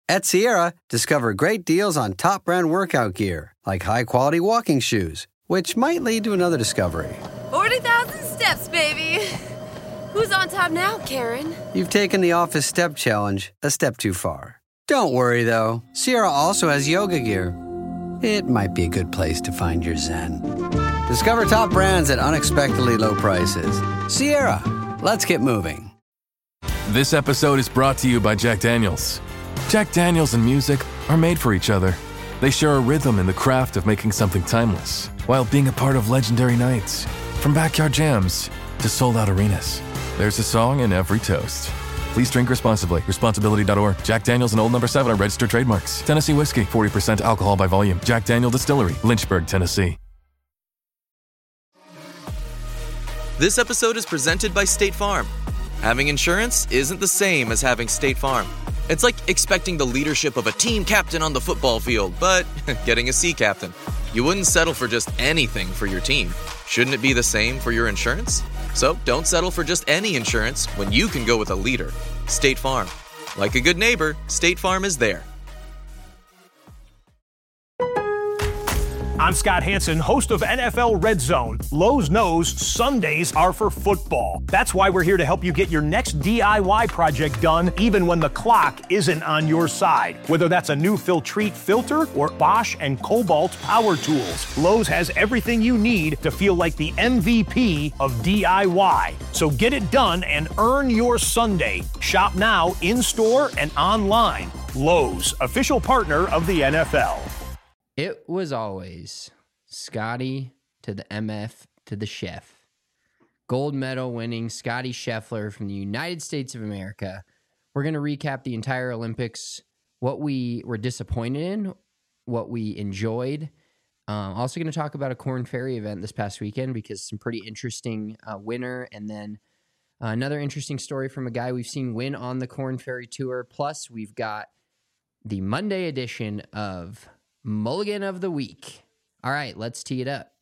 At Sierra, discover great deals on top brand workout gear, like high-quality walking shoes, which might lead to another discovery. 40,000 steps, baby. Who's on top now, Karen? You've taken the office step challenge a step too far. Don't worry, though. Sierra also has yoga gear. It might be a good place to find your zen. Discover top brands at unexpectedly low prices. Sierra, let's get moving. This episode is brought to you by Jack Daniels. Jack Daniels and music are made for each other. They share a rhythm in the craft of making something timeless, while being a part of legendary nights. From backyard jams to sold-out arenas, there's a song in every toast. Please drink responsibly. Responsibility.org. Jack Daniels and Old No. 7 are registered trademarks. Tennessee whiskey, 40% alcohol by volume. Jack Daniel Distillery, Lynchburg, Tennessee. This episode is presented by State Farm. Having insurance isn't the same as having State Farm. It's like expecting the leadership of a team captain on the football field, but getting a sea captain. You wouldn't settle for just anything for your team. Shouldn't it be the same for your insurance? So don't settle for just any insurance when you can go with a leader. State Farm. Like a good neighbor, State Farm is there. I'm Scott Hansen, host of NFL Red Zone. Lowe's knows Sundays are for football. That's why we're here to help you get your next DIY project done, even when the clock isn't on your side. Whether that's a new Filtrete filter or Bosch and Cobalt power tools, Lowe's has everything you need to feel like the MVP of DIY. So get it done and earn your Sunday. Shop now, in-store and online. Lowe's, official partner of the NFL. It was always Scotty to the MF to the chef. Gold medal winning Scotty Scheffler from the United States of America. We're going to recap the entire Olympics, what we were disappointed in, what we enjoyed. Also going to talk about a Corn Ferry event this past weekend because some pretty interesting winner, and then another interesting story from a guy we've seen win on the Corn Ferry Tour. Plus, we've got the Monday edition of Mulligan of the Week. All right, let's tee it up.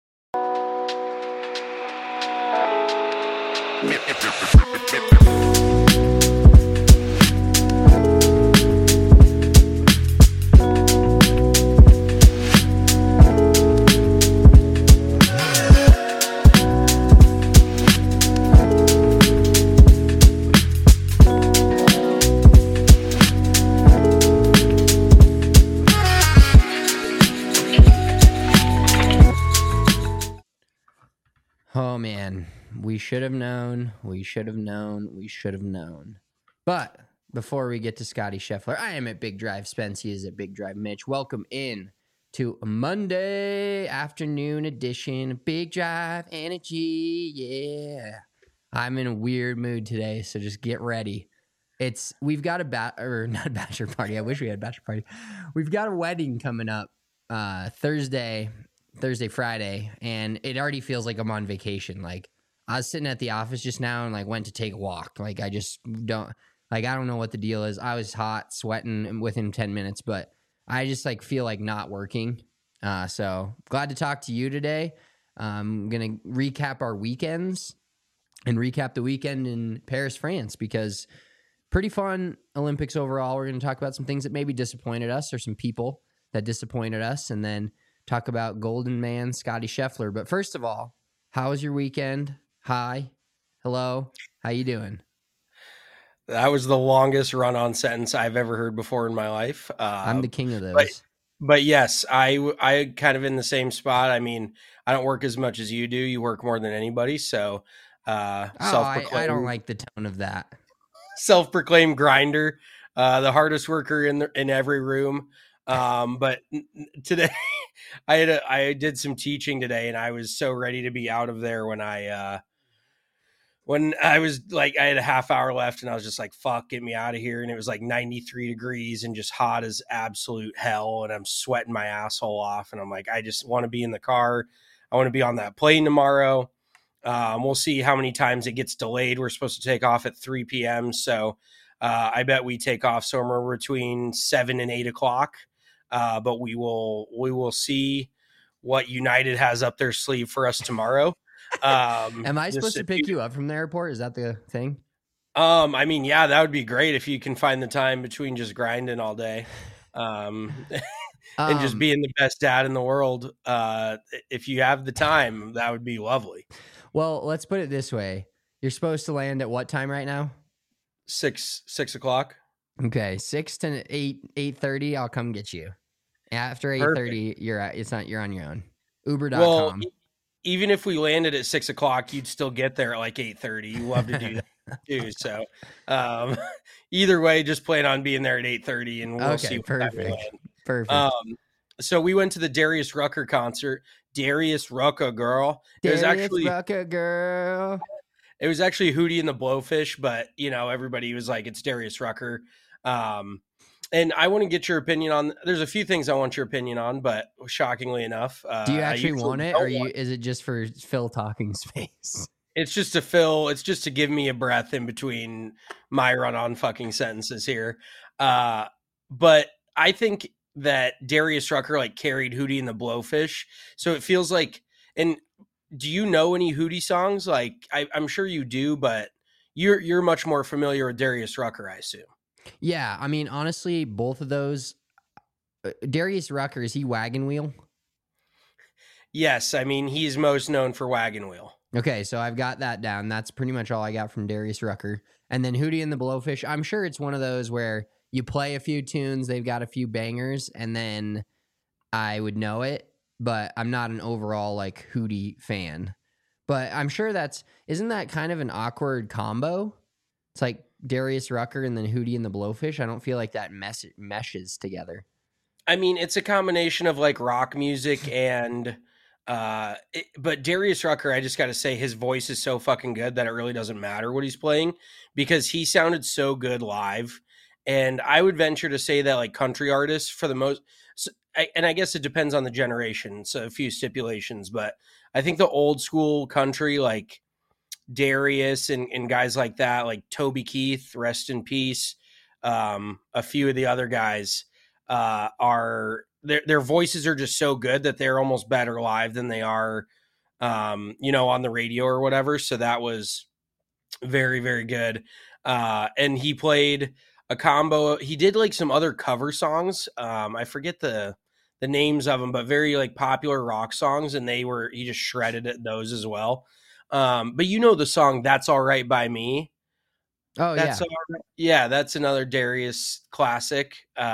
Oh, man, we should have known. But before we get to Scotty Scheffler, I am at Big Drive Spence. He is at Big Drive Mitch. Welcome in to a Monday afternoon edition. Big Drive Energy, yeah. I'm in a weird mood today, so just get ready. We've got not a bachelor party. I wish we had a bachelor party. We've got a wedding coming up Thursday, Friday, and it already feels like I'm on vacation. Like, I was sitting at the office just now and went to take a walk. I don't know what the deal is. I was hot, sweating within 10 minutes, but I just feel like not working. So glad to talk to you today. I'm going to recap our weekends and recap the weekend in Paris, France, because pretty fun Olympics overall. We're going to talk about some things that maybe disappointed us or some people that disappointed us, and then talk about Golden Man Scotty Scheffler. But first of all, how was your weekend? Hi. Hello. How you doing? That was the longest run-on sentence I've ever heard before in my life. I'm the king of those. But yes, I kind of in the same spot. I mean, I don't work as much as you do. You work more than anybody. So I don't like the tone of that. Self-proclaimed grinder, the hardest worker in every room. But today I did some teaching today, and I was so ready to be out of there when I was I had a half hour left, and I was just like, fuck, get me out of here. And it was 93 degrees and just hot as absolute hell. And I'm sweating my asshole off. And I'm like, I just want to be in the car. I want to be on that plane tomorrow. We'll see how many times it gets delayed. We're supposed to take off at 3 p.m. So I bet we take off somewhere between 7 and 8 o'clock. But we will see what United has up their sleeve for us tomorrow. Am I supposed to pick you up from the airport? Is that the thing? I mean, yeah, that would be great if you can find the time between just grinding all day. And just being the best dad in the world. If you have the time, that would be lovely. Well, let's put it this way. You're supposed to land at what time right now? 6 o'clock. Okay, 6 to 8:30. I'll come get you. After 8:30, you're on your own. Uber.com. Well, even if we landed at 6 o'clock, you'd still get there at like 8:30. You love to do that too. So, either way, just plan on being there at 8:30, and we'll see. Perfect. So we went to the Darius Rucker concert. Darius Rucker, girl. It was actually girl. It was actually Hootie and the Blowfish, but everybody was like, it's Darius Rucker. And I want to get your opinion on. There's a few things I want your opinion on, but shockingly enough, do you actually want it, or is it just for Phil talking space? It's just to fill. It's just to give me a breath in between my run-on fucking sentences here. But I think that Darius Rucker like carried Hootie and the Blowfish, so it feels like. And do you know any Hootie songs? Like I'm sure you do, but you're much more familiar with Darius Rucker, I assume. Yeah, I mean, honestly, both of those. Darius Rucker, is he Wagon Wheel? Yes, I mean, he's most known for Wagon Wheel. Okay, so I've got that down. That's pretty much all I got from Darius Rucker. And then Hootie and the Blowfish, I'm sure it's one of those where you play a few tunes, they've got a few bangers, and then I would know it, but I'm not an overall, like, Hootie fan. But I'm sure isn't that kind of an awkward combo? It's like Darius Rucker and then Hootie and the Blowfish. I don't feel like that meshes together. I mean, it's a combination of like rock music and but Darius Rucker, I just got to say his voice is so fucking good that it really doesn't matter what he's playing because he sounded so good live. And I would venture to say that like country artists for the most, and I guess it depends on the generation. So a few stipulations, but I think the old school country, like Darius and guys like that, like Toby Keith, rest in peace. A few of the other guys are their voices are just so good that they're almost better live than they are, on the radio or whatever. So that was very, very good. And he played a combo. He did like some other cover songs. I forget the names of them, but very like popular rock songs. And he just shredded at those as well. But the song "That's All Right by Me." Oh, that's yeah, that's another Darius classic.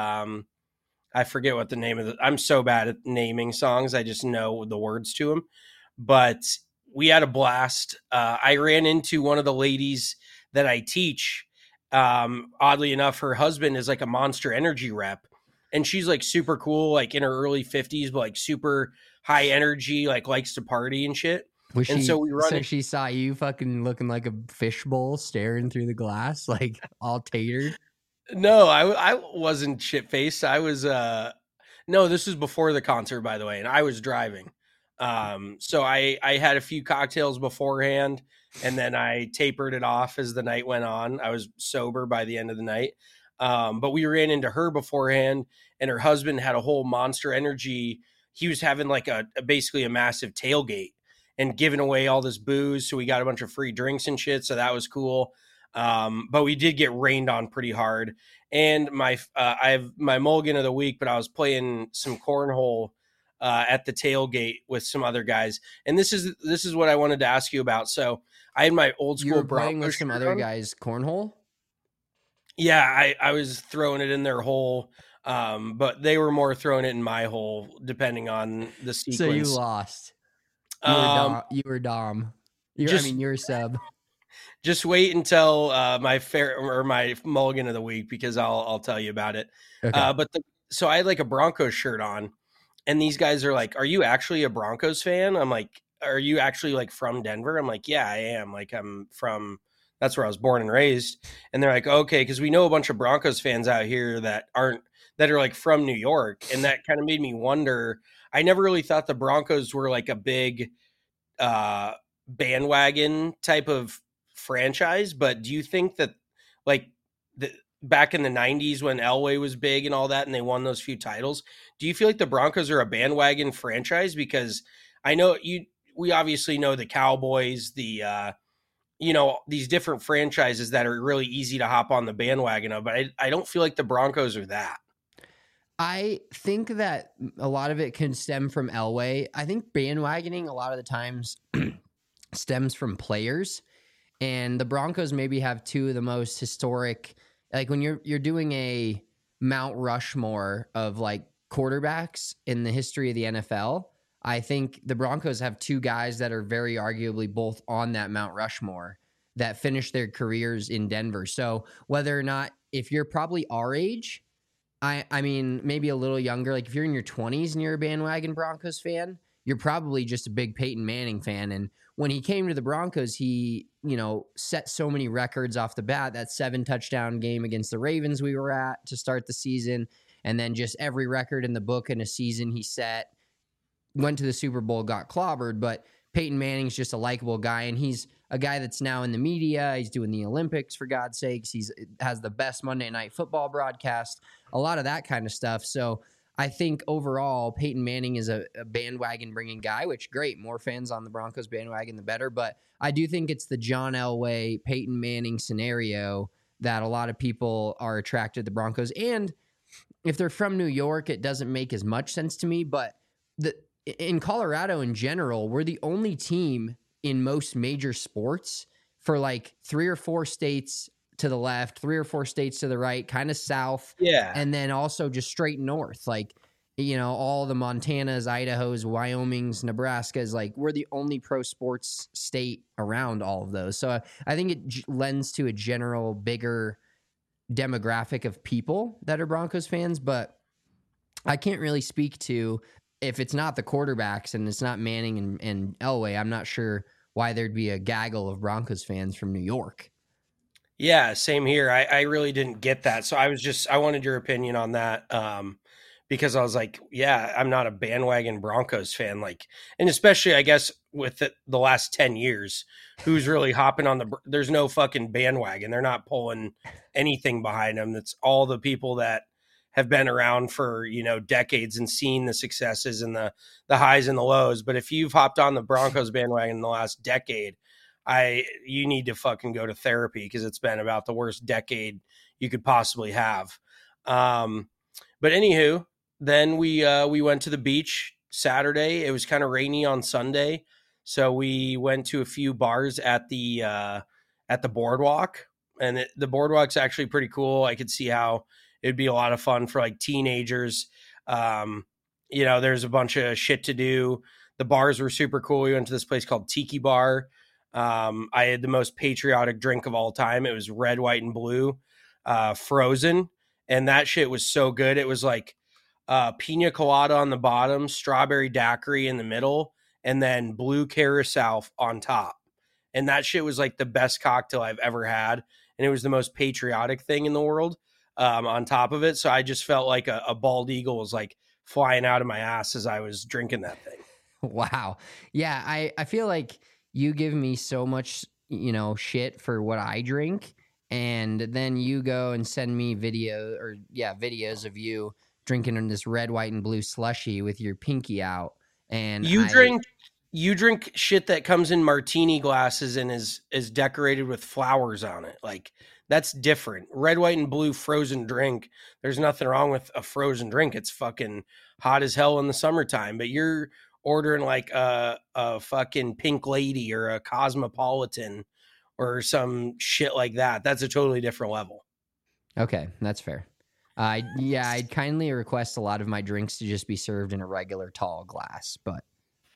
I forget what the name of I'm so bad at naming songs. I just know the words to them. But we had a blast. I ran into one of the ladies that I teach. Oddly enough, her husband is like a Monster Energy rep, and she's like super cool, like in her early 50s, but like super high energy, like likes to party and shit. So she saw you fucking looking like a fishbowl staring through the glass, like all tatered. No, I wasn't shit faced. I was no, this was before the concert, by the way, and I was driving. So I had a few cocktails beforehand, and then I tapered it off as the night went on. I was sober by the end of the night. But we ran into her beforehand, and her husband had a whole Monster Energy. He was having like basically a massive tailgate and giving away all this booze. So we got a bunch of free drinks and shit. So that was cool. But we did get rained on pretty hard. And I have my mulligan of the week, but I was playing some cornhole at the tailgate with some other guys. And this is what I wanted to ask you about. So I had my old school. You were playing with some other guys cornhole? Yeah, I was throwing it in their hole. But they were more throwing it in my hole, depending on the sequence. So you lost. You were Dom. You were sub. Just wait until my mulligan of the week, because I'll tell you about it. Okay. So I had like a Broncos shirt on, and these guys are like, "Are you actually a Broncos fan?" I'm like, "Are you actually like from Denver?" I'm like, "Yeah, I am. Like that's where I was born and raised." And they're like, "Okay," because we know a bunch of Broncos fans out here that are like from New York, and that kind of made me wonder. I never really thought the Broncos were like a big bandwagon type of franchise, but do you think that like back in the 90s when Elway was big and all that, and they won those few titles, do you feel like the Broncos are a bandwagon franchise? Because I know we obviously know the Cowboys, the these different franchises that are really easy to hop on the bandwagon of, but I don't feel like the Broncos are that. I think that a lot of it can stem from Elway. I think bandwagoning a lot of the times stems from players, and the Broncos maybe have two of the most historic, like when you're doing a Mount Rushmore of like quarterbacks in the history of the NFL. I think the Broncos have two guys that are very arguably both on that Mount Rushmore that finished their careers in Denver. So whether or not, if you're probably our age, I mean, maybe a little younger, like if you're in your 20s and you're a bandwagon Broncos fan, you're probably just a big Peyton Manning fan. And when he came to the Broncos, he, set so many records off the bat. That 7-touchdown game against the Ravens we were at to start the season. And then just every record in the book in a season he set. Went to the Super Bowl, got clobbered, but Peyton Manning's just a likable guy, and he's a guy that's now in the media. He's doing the Olympics, for God's sakes. He has the best Monday Night Football broadcast, a lot of that kind of stuff. So I think overall, Peyton Manning is a bandwagon-bringing guy, which, great, more fans on the Broncos bandwagon, the better. But I do think it's the John Elway, Peyton Manning scenario that a lot of people are attracted to the Broncos. And if they're from New York, it doesn't make as much sense to me, but in Colorado in general, we're the only team in most major sports for like 3 or 4 states to the left, 3 or 4 states to the right, kind of south. Yeah. And then also just straight north. Like, all the Montanas, Idahos, Wyomings, Nebraskas, like we're the only pro sports state around all of those. So I think it lends to a general bigger demographic of people that are Broncos fans, but I can't really speak to, if it's not the quarterbacks and it's not Manning and Elway, I'm not sure why there'd be a gaggle of Broncos fans from New York. Yeah, same here. I really didn't get that. So I wanted your opinion on that. Because I was like, yeah, I'm not a bandwagon Broncos fan. Like, and especially I guess with the last 10 years, who's really hopping on there's no fucking bandwagon. They're not pulling anything behind them. That's all the people that have been around for, decades and seen the successes and the highs and the lows. But if you've hopped on the Broncos bandwagon in the last decade, you need to fucking go to therapy, because it's been about the worst decade you could possibly have. But anywho, then we went to the beach Saturday. It was kind of rainy on Sunday, so we went to a few bars at the boardwalk, and the boardwalk's actually pretty cool. I could see how it'd be a lot of fun for like teenagers. There's a bunch of shit to do. The bars were super cool. We went to this place called Tiki Bar. I had the most patriotic drink of all time. It was red, white, and blue, frozen. And that shit was so good. It was like pina colada on the bottom, strawberry daiquiri in the middle, and then blue carousel on top. And that shit was like the best cocktail I've ever had. And it was the most patriotic thing in the world. On top of it. So I just felt like a bald eagle was like flying out of my ass as I was drinking that thing. Wow. Yeah. I feel like you give me so much, shit for what I drink. And then you go and send me videos of you drinking in this red, white, and blue slushy with your pinky out. And you drink shit that comes in martini glasses and is decorated with flowers on it. Like, that's different. Red, white, and blue frozen drink. There's nothing wrong with a frozen drink. It's fucking hot as hell in the summertime. But you're ordering like a fucking Pink Lady or a Cosmopolitan or some shit like that. That's a totally different level. Okay, that's fair. I'd kindly request a lot of my drinks to just be served in a regular tall glass. But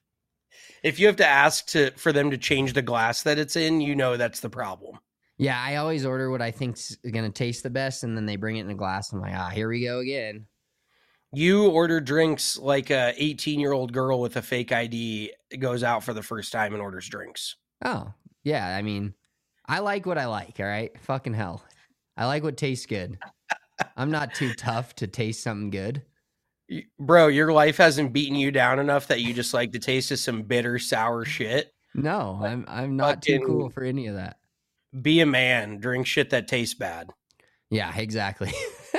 if you have to ask for them to change the glass that it's in, that's the problem. Yeah, I always order what I think's going to taste the best, and then they bring it in a glass. I'm like, here we go again. You order drinks like a 18-year-old girl with a fake ID goes out for the first time and orders drinks. Oh, yeah. I mean, I like what I like, all right? Fucking hell. I like what tastes good. I'm not too tough to taste something good. Bro, your life hasn't beaten you down enough that you just like the taste of some bitter, sour shit? No, I'm not too cool for any of that. Be a man. Drink shit that tastes bad. Yeah, exactly.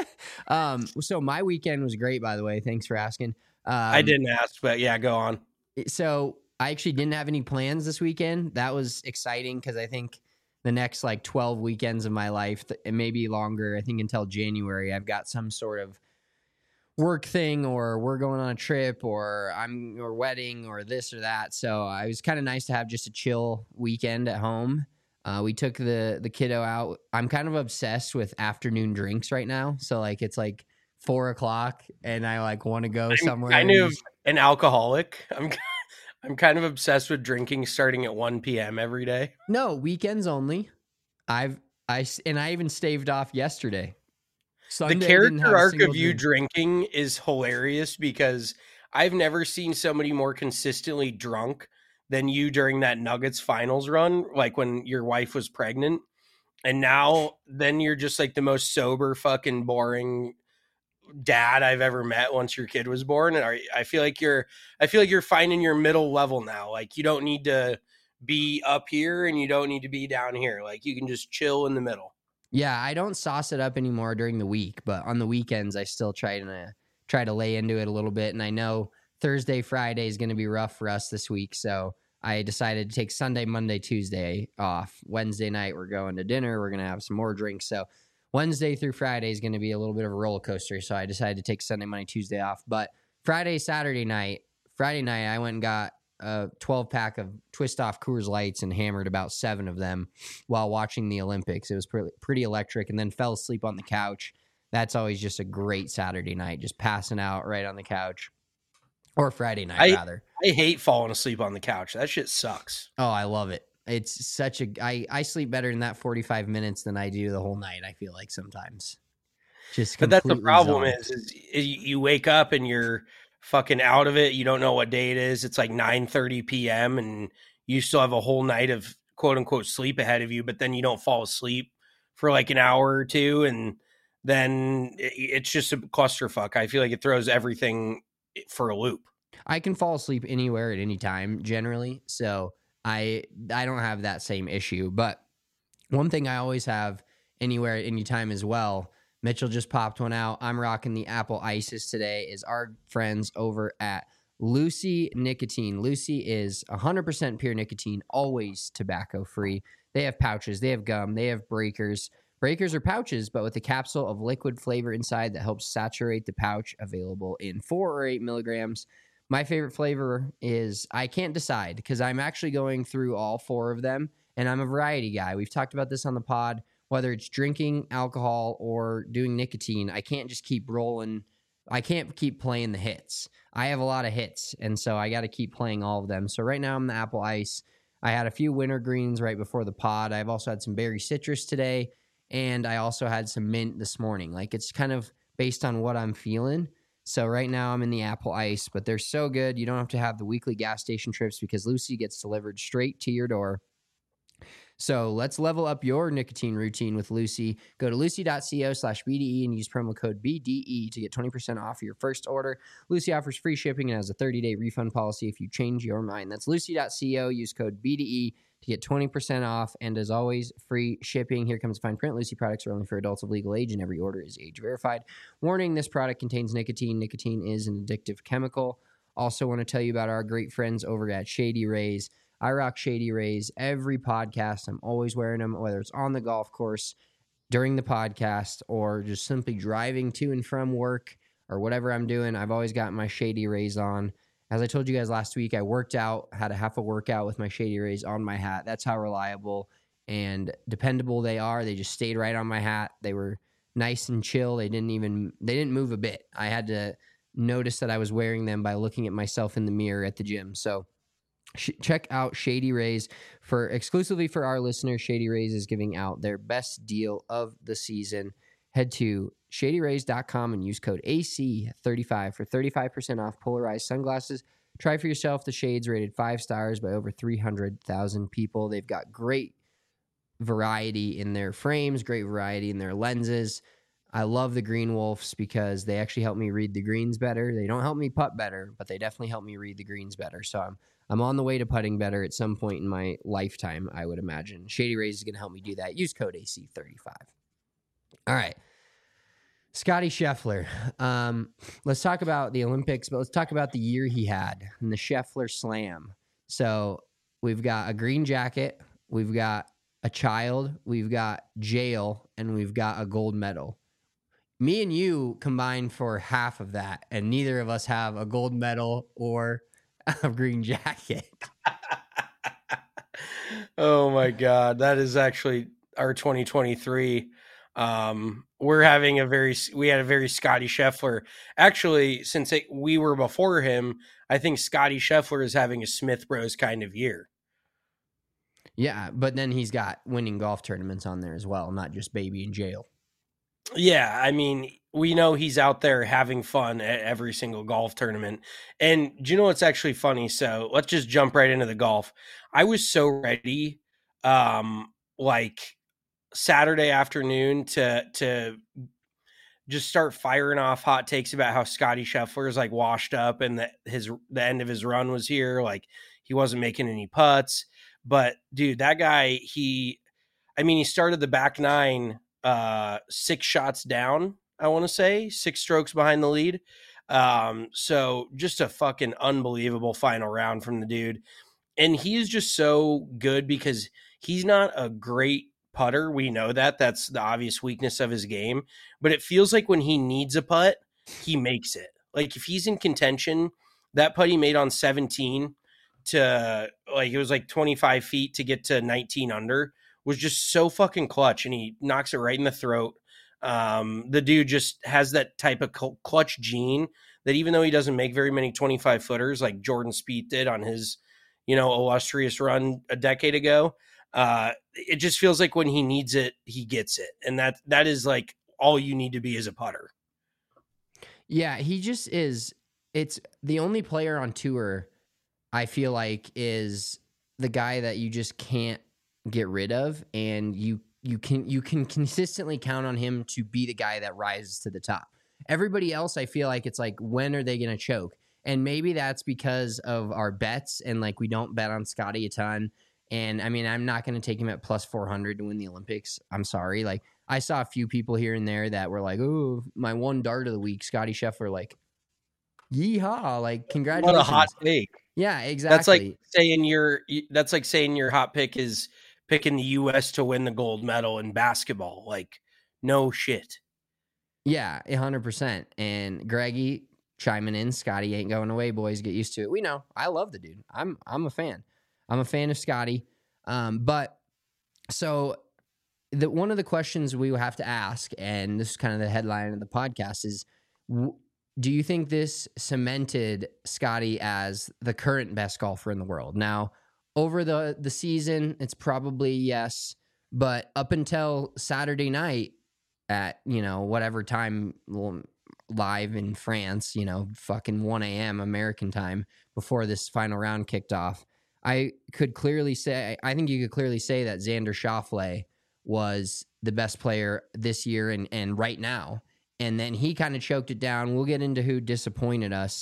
So my weekend was great, by the way. Thanks for asking. I didn't ask, but yeah, go on. So I actually didn't have any plans this weekend. That was exciting because I think the next like 12 weekends of my life, and maybe longer, I think until January, I've got some sort of work thing, or we're going on a trip, or wedding, or this or that. So it was kind of nice to have just a chill weekend at home. We took the kiddo out. I'm kind of obsessed with afternoon drinks right now. So like it's like 4 o'clock and I like want to go somewhere. I'm kind of an alcoholic. I'm kind of obsessed with drinking starting at 1 p.m. every day. No, weekends only. I even staved off yesterday. Sunday, the character arc of you drinking is hilarious because I've never seen somebody more consistently drunk than you during that Nuggets finals run, like when your wife was pregnant. And now then you're just like the most sober, fucking boring dad I've ever met once your kid was born. And I feel like you're finding your middle level now. Like you don't need to be up here and you don't need to be down here. Like you can just chill in the middle. Yeah, I don't sauce it up anymore during the week, but on the weekends I still try to lay into it a little bit. And I know Thursday, Friday is going to be rough for us this week, so I decided to take Sunday, Monday, Tuesday off. Wednesday night we're going to dinner. We're going to have some more drinks. So Wednesday through Friday is going to be a little bit of a roller coaster. So I decided to take Sunday, Monday, Tuesday off. But Friday night I went and got a 12-pack of Twist Off Coors Lights and hammered about 7 of them while watching the Olympics. It was pretty electric, and then fell asleep on the couch. That's always just a great Saturday night, just passing out right on the couch. Or Friday night, rather. I hate falling asleep on the couch. That shit sucks. Oh, I love it. It's such I sleep better in that 45 minutes than I do the whole night, I feel like sometimes. But that's the problem is you wake up and you're fucking out of it. You don't know what day it is. It's like 9:30 p.m. and you still have a whole night of quote unquote sleep ahead of you, but then you don't fall asleep for like an hour or two. And then it's just a clusterfuck. I feel like it throws everything for a loop. I can fall asleep anywhere at any time generally. So I don't have that same issue, but one thing I always have anywhere at any time as well, Mitchell just popped one out. I'm rocking the Apple Ices today, is our friends over at Lucy Nicotine. Lucy is 100% pure nicotine, always tobacco free. They have pouches, they have gum, they have breakers. Breakers are pouches, but with a capsule of liquid flavor inside that helps saturate the pouch, available in 4 or 8 milligrams. My favorite flavor is, I can't decide because I'm actually going through all 4 of them, and I'm a variety guy. We've talked about this on the pod. Whether it's drinking alcohol or doing nicotine, I can't just keep rolling. I can't keep playing the hits. I have a lot of hits, and so I got to keep playing all of them. So right now I'm the Apple Ice. I had a few wintergreens right before the pod. I've also had some berry citrus today, and I also had some mint this morning. Like, it's kind of based on what I'm feeling. So right now I'm in the Apple Ice, but they're so good. You don't have to have the weekly gas station trips because Lucy gets delivered straight to your door. So let's level up your nicotine routine with Lucy. Go to lucy.co/BDE and use promo code BDE to get 20% off your first order. Lucy offers free shipping and has a 30-day refund policy if you change your mind. That's lucy.co. Use code BDE to get 20% off. And as always, free shipping. Here comes fine print. Lucy products are only for adults of legal age, and every order is age verified. Warning, this product contains nicotine. Nicotine is an addictive chemical. Also want to tell you about our great friends over at Shady Rays. I rock Shady Rays every podcast. I'm always wearing them, whether it's on the golf course, during the podcast, or just simply driving to and from work or whatever I'm doing. I've always got my Shady Rays on. As I told you guys last week, I worked out, had a half a workout with my Shady Rays on my hat. That's how reliable and dependable they are. They just stayed right on my hat. They were nice and chill. They didn't move a bit. I had to notice that I was wearing them by looking at myself in the mirror at the gym. So check out Shady Rays. Exclusively for our listeners, Shady Rays is giving out their best deal of the season. Head to shadyrays.com and use code AC35 for 35% off polarized sunglasses. Try for yourself the shades rated 5 stars by over 300,000 people. They've got great variety in their frames, great variety in their lenses. I love the Green Wolves because they actually help me read the greens better. They don't help me putt better, but they definitely help me read the greens better. So I'm on the way to putting better at some point in my lifetime, I would imagine. Shady Rays is going to help me do that. Use code AC35. All right. Scotty Scheffler. Let's talk about the Olympics, but let's talk about the year he had in the Scheffler Slam. So we've got a green jacket. We've got a child, we've got jail, and we've got a gold medal. Me and you combined for half of that, and neither of us have a gold medal or a green jacket. Oh my God. That is actually our 2023. We had a very Scotty Scheffler. Actually, since we were before him, I think Scotty Scheffler is having a Smith Bros kind of year. Yeah, but then he's got winning golf tournaments on there as well, not just baby in jail. Yeah, I mean, we know he's out there having fun at every single golf tournament. And do you know what's actually funny? So let's just jump right into the golf. I was so ready, like Saturday afternoon to just start firing off hot takes about how Scotty Scheffler is like washed up and that the end of his run was here. Like he wasn't making any putts. But dude, that guy, he started the back nine 6 shots down, I want to say 6 strokes behind the lead. So just a fucking unbelievable final round from the dude. And he's just so good because he's not a great putter. We know that's the obvious weakness of his game, but it feels like when he needs a putt, he makes it. Like if he's in contention, that putt he made on 17 to like, it was like 25 feet to get to 19 under was just so fucking clutch, and he knocks it right in the throat. The dude just has that type of clutch gene that even though he doesn't make very many 25 footers like Jordan Spieth did on his, illustrious run a decade ago, it just feels like when he needs it, he gets it. And that is like all you need to be as a putter. Yeah, he just is. It's the only player on tour I feel like is the guy that you just can't get rid of, and you can consistently count on him to be the guy that rises to the top. Everybody else, I feel like it's like, when are they going to choke? And maybe that's because of our bets, and like we don't bet on Scotty a ton. And I mean, I'm not going to take him at plus 400 to win the Olympics. I'm sorry. Like I saw a few people here and there that were like, "Oh, my one dart of the week, Scotty Scheffler." Like, yeehaw! Like, congratulations! What a hot take. Yeah, exactly. That's like saying your hot pick is picking the U.S. to win the gold medal in basketball. Like, no shit. Yeah, 100%. And Greggy chiming in, Scotty ain't going away, boys. Get used to it. We know. I love the dude. I'm a fan. I'm a fan of Scotty. But so one of the questions we will have to ask, and this is kind of the headline of the podcast, is do you think this cemented Scotty as the current best golfer in the world? Now, over the season, it's probably yes, but up until Saturday night at, whatever time live in France, fucking 1 a.m. American time before this final round kicked off, I think you could clearly say that Xander Schauffele was the best player this year and right now. And then he kind of choked it down. We'll get into who disappointed us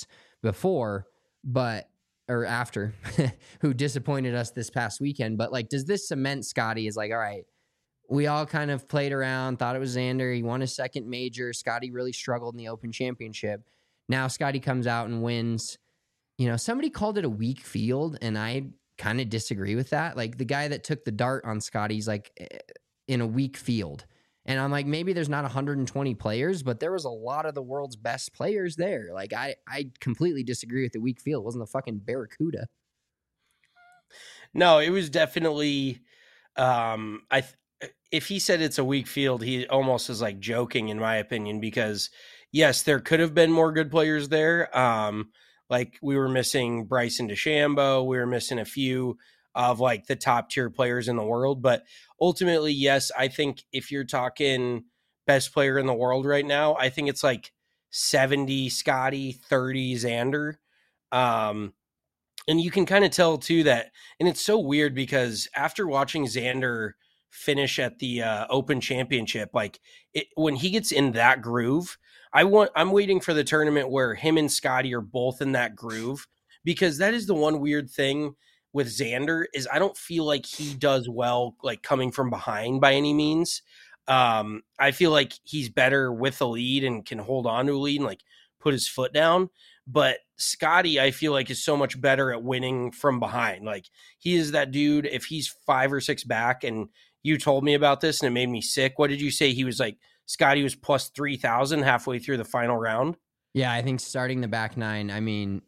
after, who disappointed us this past weekend. But like, does this cement Scotty is like, all right, we all kind of played around, thought it was Xander. He won his second major. Scotty really struggled in the Open Championship. Now Scotty comes out and wins. Somebody called it a weak field, and I kind of disagree with that. Like, the guy that took the dart on Scotty's like in a weak field. And I'm like, maybe there's not 120 players, but there was a lot of the world's best players there. Like, I completely disagree with the weak field. It wasn't the fucking Barracuda. No, it was definitely. If he said it's a weak field, he almost is like joking, in my opinion, because yes, there could have been more good players there. Like we were missing Bryson DeChambeau, we were missing a few of like the top tier players in the world. But ultimately, yes, I think if you're talking best player in the world right now, I think it's like 70 Scotty, 30 Xander. And you can kind of tell too that, and it's so weird because after watching Xander finish at the Open Championship, like when he gets in that groove, I'm waiting for the tournament where him and Scotty are both in that groove, because that is the one weird thing with Xander is I don't feel like he does well like coming from behind by any means. I feel like he's better with a lead and can hold on to a lead and like put his foot down. But Scotty, I feel like, is so much better at winning from behind. Like he is that dude. If he's 5 or 6 back and you told me about this and it made me sick. What did you say? He was like, Scotty was plus 3,000 halfway through the final round. Yeah, I think starting the back nine. I mean,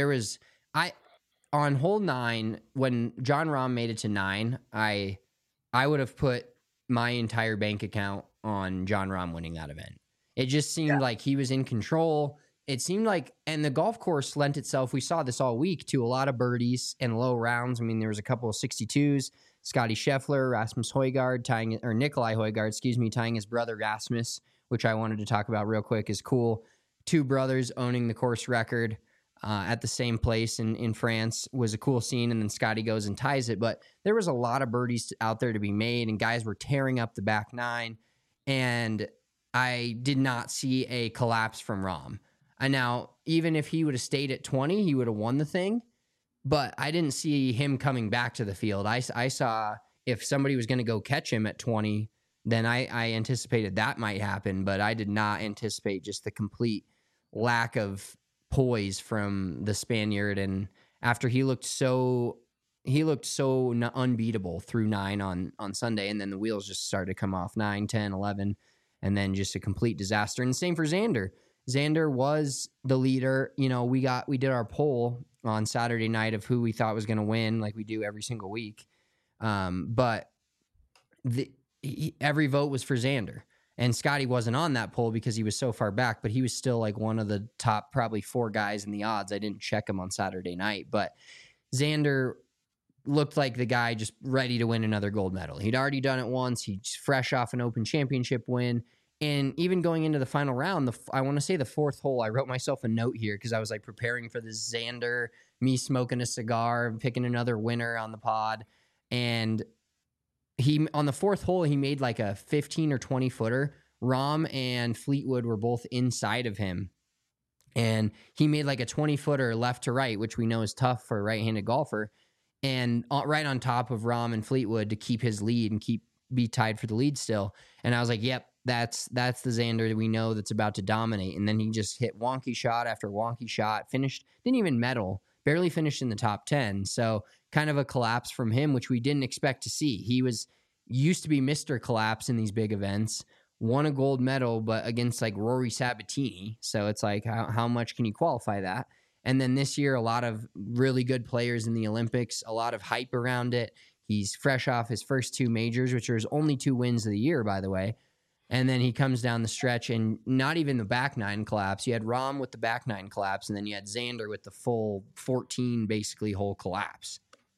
on hole 9 when Jon Rahm made it to 9. I would have put my entire bank account on Jon Rahm winning that event. It just seemed like he was in control. It seemed like, and the golf course lent itself. We saw this all week to a lot of birdies and low rounds. I mean, there was a couple of 62s. Scotty Scheffler, Rasmus Højgaard Nikolai Højgaard, tying his brother Rasmus, which I wanted to talk about real quick, is cool. 2 brothers owning the course record at the same place in France was a cool scene. And then Scotty goes and ties it. But there was a lot of birdies out there to be made, and guys were tearing up the back nine. And I did not see a collapse from Rahm. And now, even if he would have stayed at 20, he would have won the thing. But I didn't see him coming back to the field. I saw if somebody was going to go catch him at 20, then I anticipated that might happen. But I did not anticipate just the complete lack of poise from the Spaniard. And after he looked so unbeatable through 9 on Sunday, and then the wheels just started to come off 9, 10, 11, and then just a complete disaster. And the same for Xander. Xander was the leader. You know, we did our poll on Saturday night of who we thought was going to win, like we do every single week. But every vote was for Xander. And Scotty wasn't on that poll because he was so far back, but he was still like one of the top probably 4 guys in the odds. I didn't check him on Saturday night, but Xander looked like the guy just ready to win another gold medal. He'd already done it once. He's fresh off an Open Championship win. And even going into the final round, I want to say the 4th hole, I wrote myself a note here because I was like preparing for this Xander, me smoking a cigar, picking another winner on the pod. And he, on the 4th hole, he made like a 15 or 20 footer. Rahm and Fleetwood were both inside of him. And he made like a 20 footer left to right, which we know is tough for a right-handed golfer. And right on top of Rahm and Fleetwood to keep his lead and be tied for the lead still. And I was like, yep, that's the Xander that we know that's about to dominate. And then he just hit wonky shot after wonky shot, didn't even medal, barely finished in the top 10. So kind of a collapse from him, which we didn't expect to see. He used to be Mr. Collapse in these big events, won a gold medal, but against like Rory Sabatini. So it's like, how much can you qualify that? And then this year, a lot of really good players in the Olympics, a lot of hype around it. He's fresh off his first 2 majors, which are his only 2 wins of the year, by the way. And then he comes down the stretch and not even the back 9 collapse. You had Rahm with the back 9 collapse, and then you had Xander with the full 14 basically hole collapse.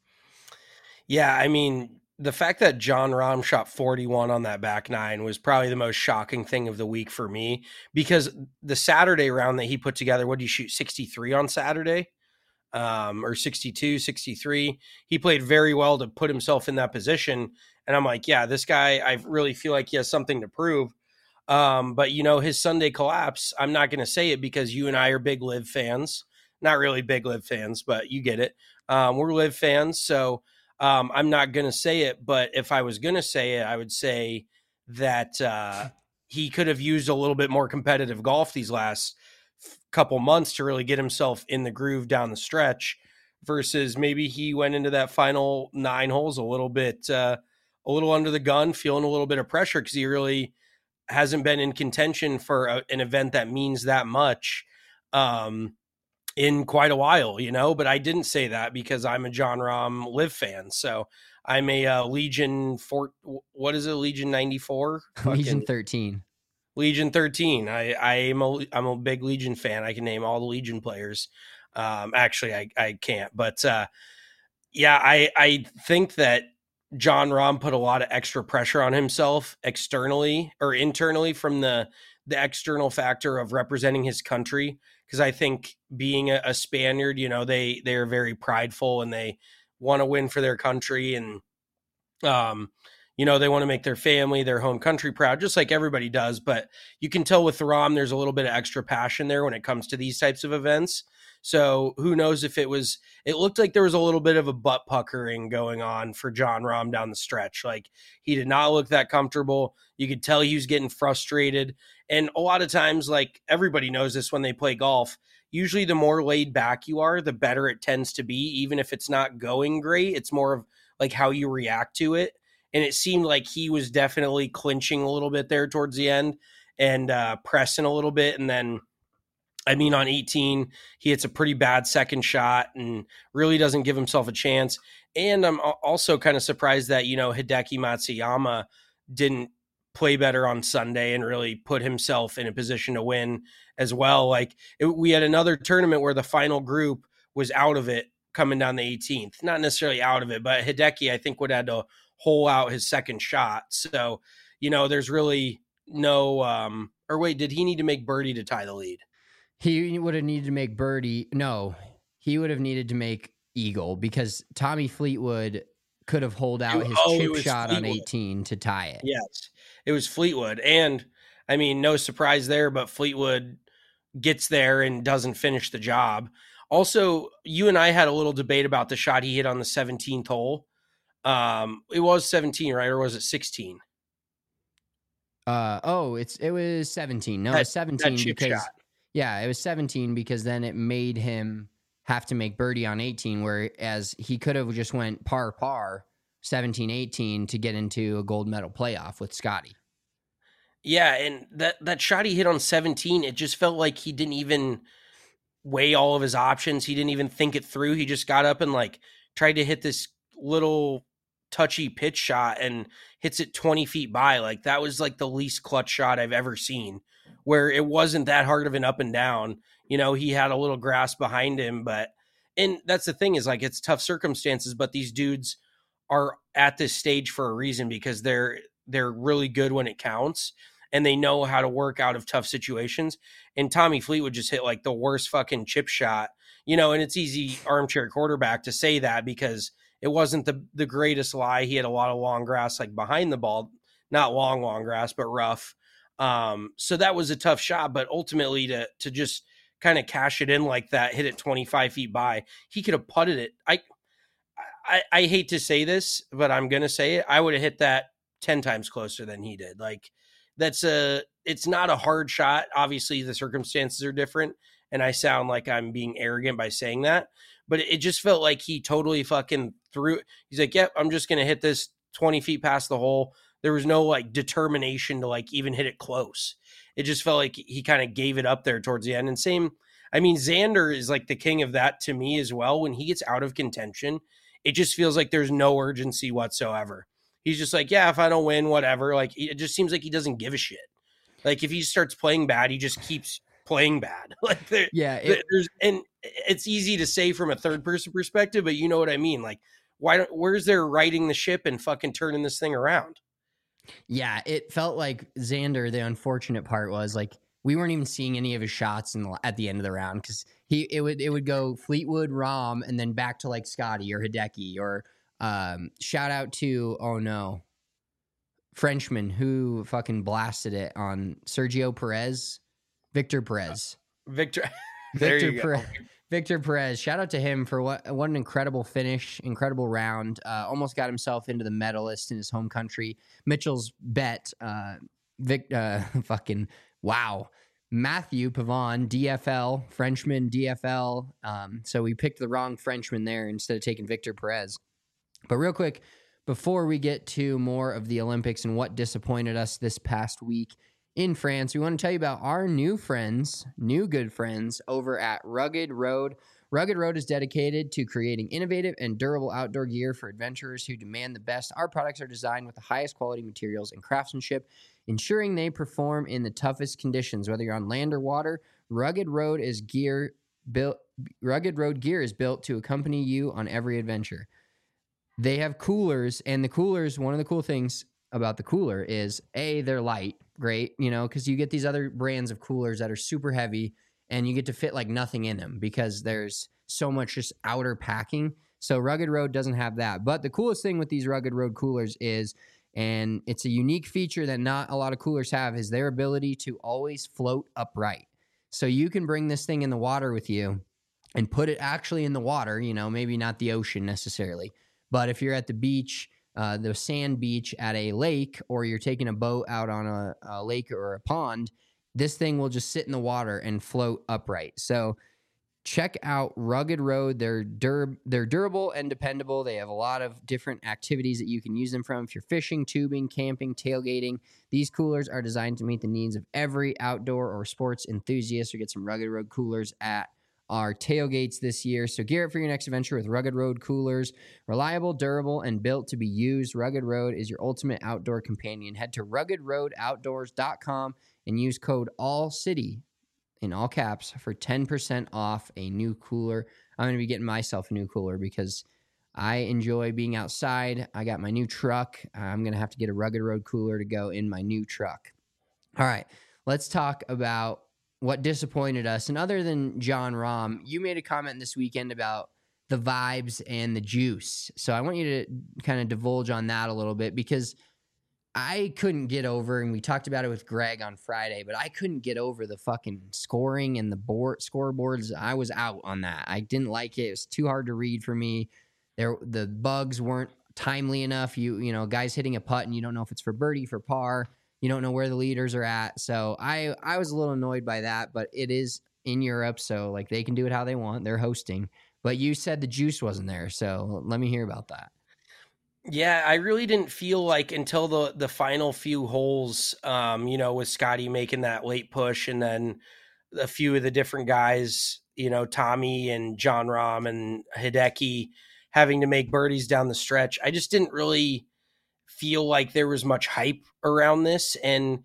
Yeah, I mean, the fact that Jon Rahm shot 41 on that back 9 was probably the most shocking thing of the week for me, because the Saturday round that he put together, what did he shoot, 63 on Saturday? Or 62, 63. He played very well to put himself in that position. And I'm like, yeah, this guy, I really feel like he has something to prove. But, you know, his Sunday collapse, I'm not going to say it because you and I are big LIV fans. Not really big LIV fans, but you get it. We're LIV fans. So I'm not going to say it. But if I was going to say it, I would say that he could have used a little bit more competitive golf these last couple months to really get himself in the groove down the stretch, versus maybe he went into that final 9 holes a little under the gun, feeling a little bit of pressure because he really hasn't been in contention for an event that means that much in quite a while, you know. But I didn't say that because I'm a Jon Rahm LIV fan. So I'm a Legion 94? Legion 13. Legion 13. I'm a big Legion fan. I can name all the Legion players. Actually, I can't. But yeah, I think that Jon Rahm put a lot of extra pressure on himself externally or internally from the external factor of representing his country. Because I think being a Spaniard, you know, they are very prideful and they want to win for their country. And, you know, they want to make their family, their home country proud, just like everybody does. But you can tell with Rahm, there's a little bit of extra passion there when it comes to these types of events. So who knows if it looked like there was a little bit of a butt puckering going on for Jon Rahm down the stretch. Like, he did not look that comfortable. You could tell he was getting frustrated. And a lot of times, like, everybody knows this when they play golf, usually the more laid back you are, the better it tends to be. Even if it's not going great, it's more of like how you react to it. and it seemed like he was definitely clinching a little bit there towards the end and pressing a little bit. And then, I mean, on 18, he hits a pretty bad second shot and really doesn't give himself a chance. And I'm also kind of surprised that, Hideki Matsuyama didn't play better on Sunday and really put himself in a position to win as well. Like we had another tournament where the final group was out of it coming down the 18th, not necessarily out of it, but Hideki, I think, would have had to hole out his second shot. So, there's really no, or wait, did he need to make birdie to tie the lead? He would have needed to make birdie. No, he would have needed to make eagle because Tommy Fleetwood could have holed out his chip shot Fleetwood on 18 to tie it. Yes, it was Fleetwood. And I mean, no surprise there, but Fleetwood gets there and doesn't finish the job. Also, you and I had a little debate about the shot he hit on the 17th hole. It was 17, right? Or was it 16? It was 17. No, it was 17 because shot. Yeah, it was 17 because then it made him have to make birdie on 18, whereas he could have just went par 17-18 to get into a gold medal playoff with Scotty. Yeah, and that shot he hit on 17, it just felt like he didn't even weigh all of his options. He didn't even think it through. He just got up and tried to hit this little touchy pitch shot and hits it 20 feet by. Like that was the least clutch shot I've ever seen, where it wasn't that hard of an up and down. He had a little grass behind him, and that's the thing is it's tough circumstances, but these dudes are at this stage for a reason because they're really good when it counts and they know how to work out of tough situations. And Tommy Fleetwood just hit the worst fucking chip shot, and it's easy armchair quarterback to say that because it wasn't the greatest lie. He had a lot of long grass behind the ball, not long grass, but rough. So that was a tough shot, but ultimately to just kind of cash it in like that, hit it 25 feet by, he could have putted it. I hate to say this, but I'm going to say it. I would have hit that 10 times closer than he did. It's not a hard shot. Obviously the circumstances are different and I sound like I'm being arrogant by saying that, but it just felt like he totally fucking threw it. He's like, yep, I'm just going to hit this 20 feet past the hole. There was no determination to even hit it close. It just felt like he kind of gave it up there towards the end. And same, I mean, Xander is the king of that to me as well. When he gets out of contention, it just feels like there's no urgency whatsoever. He's just yeah, if I don't win, whatever. It just seems like he doesn't give a shit. If he starts playing bad, he just keeps playing bad. And it's easy to say from a third person perspective, but you know what I mean? Where's there riding the ship and fucking turning this thing around? Yeah, it felt like Xander, the unfortunate part was we weren't even seeing any of his shots at the end of the round because it would go Fleetwood, Rahm, and then back to Scotty or Hideki or shout out to Frenchman who fucking blasted it on Victor Perez. Victor Perez, shout out to him for what an incredible finish, incredible round. Almost got himself into the medalist in his home country. Mitchell's bet, fucking wow. Matthew Pavon, DFL, Frenchman, DFL. So we picked the wrong Frenchman there instead of taking Victor Perez. But real quick, before we get to more of the Olympics and what disappointed us this past week in France, we want to tell you about our new good friends over at Rugged Road. Rugged Road is dedicated to creating innovative and durable outdoor gear for adventurers who demand the best. Our products are designed with the highest quality materials and craftsmanship, ensuring they perform in the toughest conditions. Whether you're on land or water, Rugged Road gear is built to accompany you on every adventure. They have coolers, and the coolers, one of the cool things about the cooler is they're light, great, because you get these other brands of coolers that are super heavy and you get to fit nothing in them because there's so much just outer packing. So Rugged Road doesn't have that. But the coolest thing with these Rugged Road coolers is, and it's a unique feature that not a lot of coolers have, is their ability to always float upright. So you can bring this thing in the water with you and put it actually in the water, maybe not the ocean necessarily. But if you're at the beach, the sand beach at a lake, or you're taking a boat out on a lake or a pond, this thing will just sit in the water and float upright. So check out Rugged Road. They're durable and dependable. They have a lot of different activities that you can use them from. If you're fishing, tubing, camping, tailgating, these coolers are designed to meet the needs of every outdoor or sports enthusiast. Or get some Rugged Road coolers at our tailgates this year. So gear up for your next adventure with Rugged Road coolers. Reliable, durable, and built to be used. Rugged Road is your ultimate outdoor companion. Head to ruggedroadoutdoors.com and use code ALLCITY in all caps for 10% off a new cooler. I'm going to be getting myself a new cooler because I enjoy being outside. I got my new truck. I'm going to have to get a Rugged Road cooler to go in my new truck. All right, let's talk about what disappointed us. And other than Jon Rahm, you made a comment this weekend about the vibes and the juice. So I want you to kind of divulge on that a little bit, because I couldn't get over, and we talked about it with Greg on Friday, but I couldn't get over the fucking scoring and the scoreboards. I was out on that. I didn't like it. It was too hard to read for me. The bugs weren't timely enough. You know, guys hitting a putt and you don't know if it's for birdie, for par. You don't know where the leaders are at. So I was a little annoyed by that, but it is in Europe, so like they can do it how they want. They're hosting. But you said the juice wasn't there, so let me hear about that. Yeah, I really didn't feel like until the final few holes, you know, with Scotty making that late push, and then a few of the different guys, you know, Tommy and Jon Rahm and Hideki having to make birdies down the stretch. I just didn't really feel like there was much hype around this. And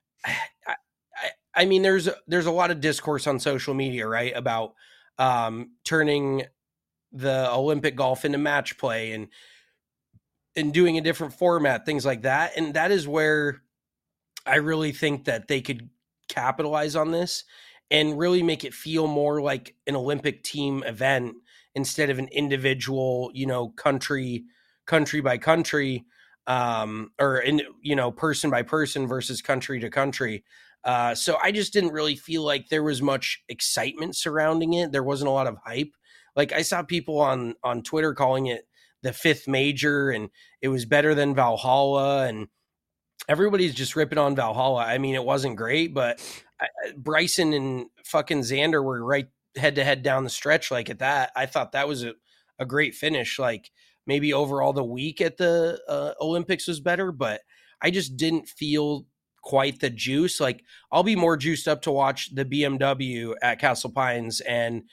I mean, there's a lot of discourse on social media, right, about turning the Olympic golf into match play and doing a different format, things like that. And that is where I really think that they could capitalize on this and really make it feel more like an Olympic team event instead of an individual, you know, country by country, or in, you know, person by person versus country to country. So I just didn't really feel like there was much excitement surrounding it. There wasn't a lot of hype. Like I saw people on Twitter calling it the fifth major, and it was better than Valhalla, and everybody's just ripping on Valhalla. I mean, it wasn't great, but Bryson and fucking Xander were right head to head down the stretch. Like at that, I thought that was a great finish. Like maybe overall the week at the Olympics was better, but I just didn't feel quite the juice. Like I'll be more juiced up to watch the BMW at Castle Pines and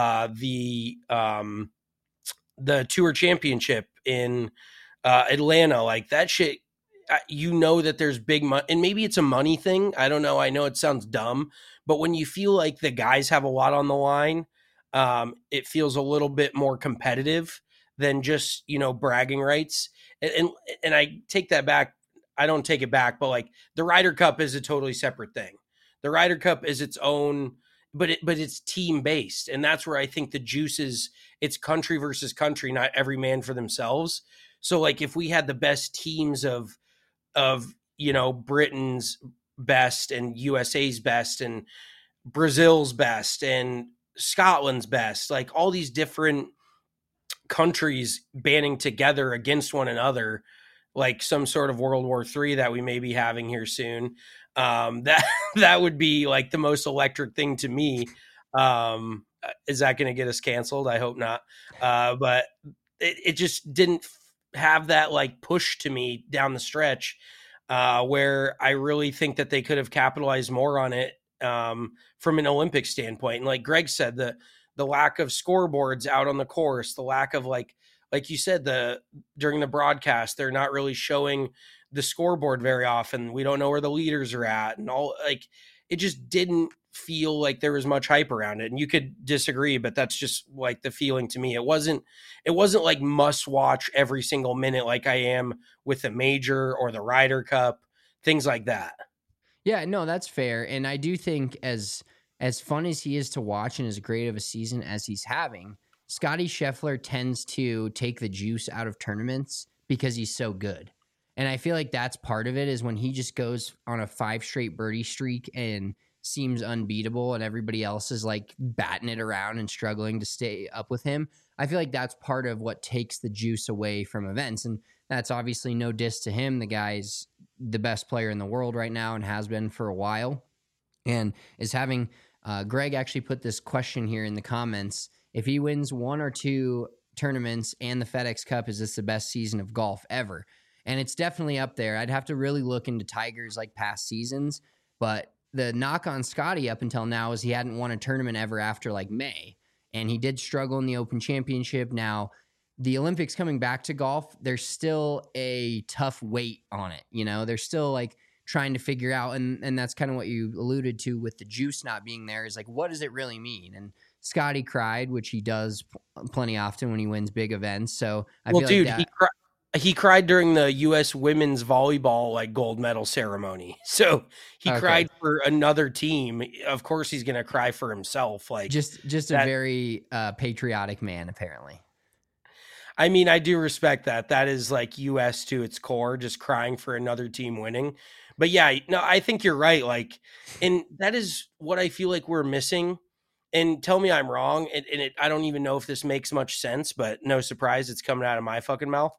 the Tour Championship in Atlanta. Like that shit, you know that there's big money, and maybe it's a money thing. I don't know. I know it sounds dumb, but when you feel like the guys have a lot on the line, it feels a little bit more competitive than just, you know, bragging rights. And I take that back. I don't take it back, but like the Ryder Cup is a totally separate thing. The Ryder Cup is its own, but it's team based. And that's where I think the juice is. It's country versus country, not every man for themselves. So like if we had the best teams of, you know, Britain's best and USA's best and Brazil's best and Scotland's best, like all these different countries banding together against one another, like some sort of World War III that we may be having here soon. That would be like the most electric thing to me. Is that going to get us canceled? I hope not. But it just didn't have that like push to me down the stretch, where I really think that they could have capitalized more on it from an Olympic standpoint. And like Greg said, the lack of scoreboards out on the course, the lack of like you said, during the broadcast, they're not really showing the scoreboard very often. We don't know where the leaders are at, and all, like it just didn't feel like there was much hype around it. And you could disagree, but that's just like the feeling to me. It wasn't like must watch every single minute like I am with the major or the Ryder Cup, things like that. Yeah, no, that's fair. And I do think as fun as he is to watch and as great of a season as he's having, Scotty Scheffler tends to take the juice out of tournaments because he's so good. And I feel like that's part of it, is when he just goes on a 5 straight birdie streak and seems unbeatable and everybody else is like batting it around and struggling to stay up with him. I feel like that's part of what takes the juice away from events. And that's obviously no diss to him. The guy's the best player in the world right now and has been for a while, and is having Greg actually put this question here in the comments. If he wins 1 or 2 tournaments and the FedEx Cup, is this the best season of golf ever? And it's definitely up there. I'd have to really look into Tiger's like past seasons, but the knock on Scotty up until now is he hadn't won a tournament ever after like May, and he did struggle in the Open Championship. Now, the Olympics coming back to golf, there's still a tough weight on it. You know, they're still like trying to figure out, and that's kind of what you alluded to with the juice not being there, is like, what does it really mean? And Scotty cried, which he does plenty often when he wins big events. So I feel dude, like he cried during the U.S. women's volleyball like gold medal ceremony. So he cried for another team. Of course, he's gonna cry for himself. Like just a very patriotic man, apparently. I mean, I do respect that. That is like U.S. to its core, just crying for another team winning. But yeah, no, I think you're right. Like, and that is what I feel like we're missing. And tell me I'm wrong. I don't even know if this makes much sense, but no surprise, it's coming out of my fucking mouth.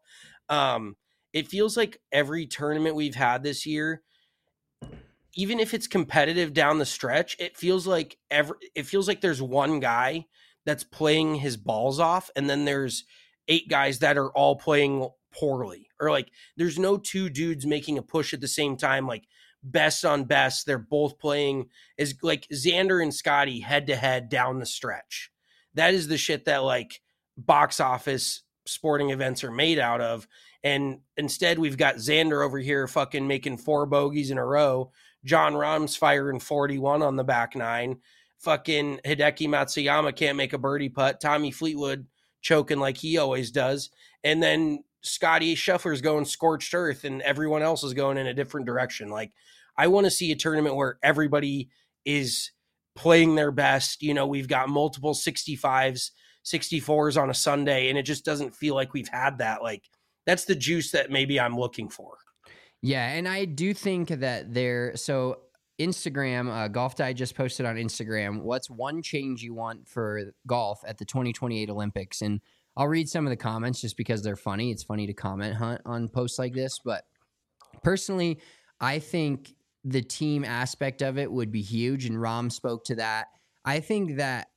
It feels like every tournament we've had this year, even if it's competitive down the stretch, it feels like there's one guy that's playing his balls off, and then there's 8 guys that are all playing poorly, or like there's no 2 dudes making a push at the same time, like best on best. They're both playing as like Xander and Scotty head to head down the stretch. That is the shit that like box office sporting events are made out of. And instead we've got Xander over here fucking making 4 bogeys in a row. John Rahm's firing 41 on the back 9. Fucking Hideki Matsuyama can't make a birdie putt. Tommy Fleetwood choking like he always does. And then Scotty Scheffler's going scorched earth and everyone else is going in a different direction. Like, I want to see a tournament where everybody is playing their best. You know, we've got multiple 65s, 64s on a Sunday, and it just doesn't feel like we've had that. Like, that's the juice that maybe I'm looking for. Yeah, and I do think that so Instagram, Golf Digest posted on Instagram, what's one change you want for golf at the 2028 Olympics? And I'll read some of the comments just because they're funny. It's funny to comment on posts like this. But personally, I think the team aspect of it would be huge, and Rahm spoke to that. I think that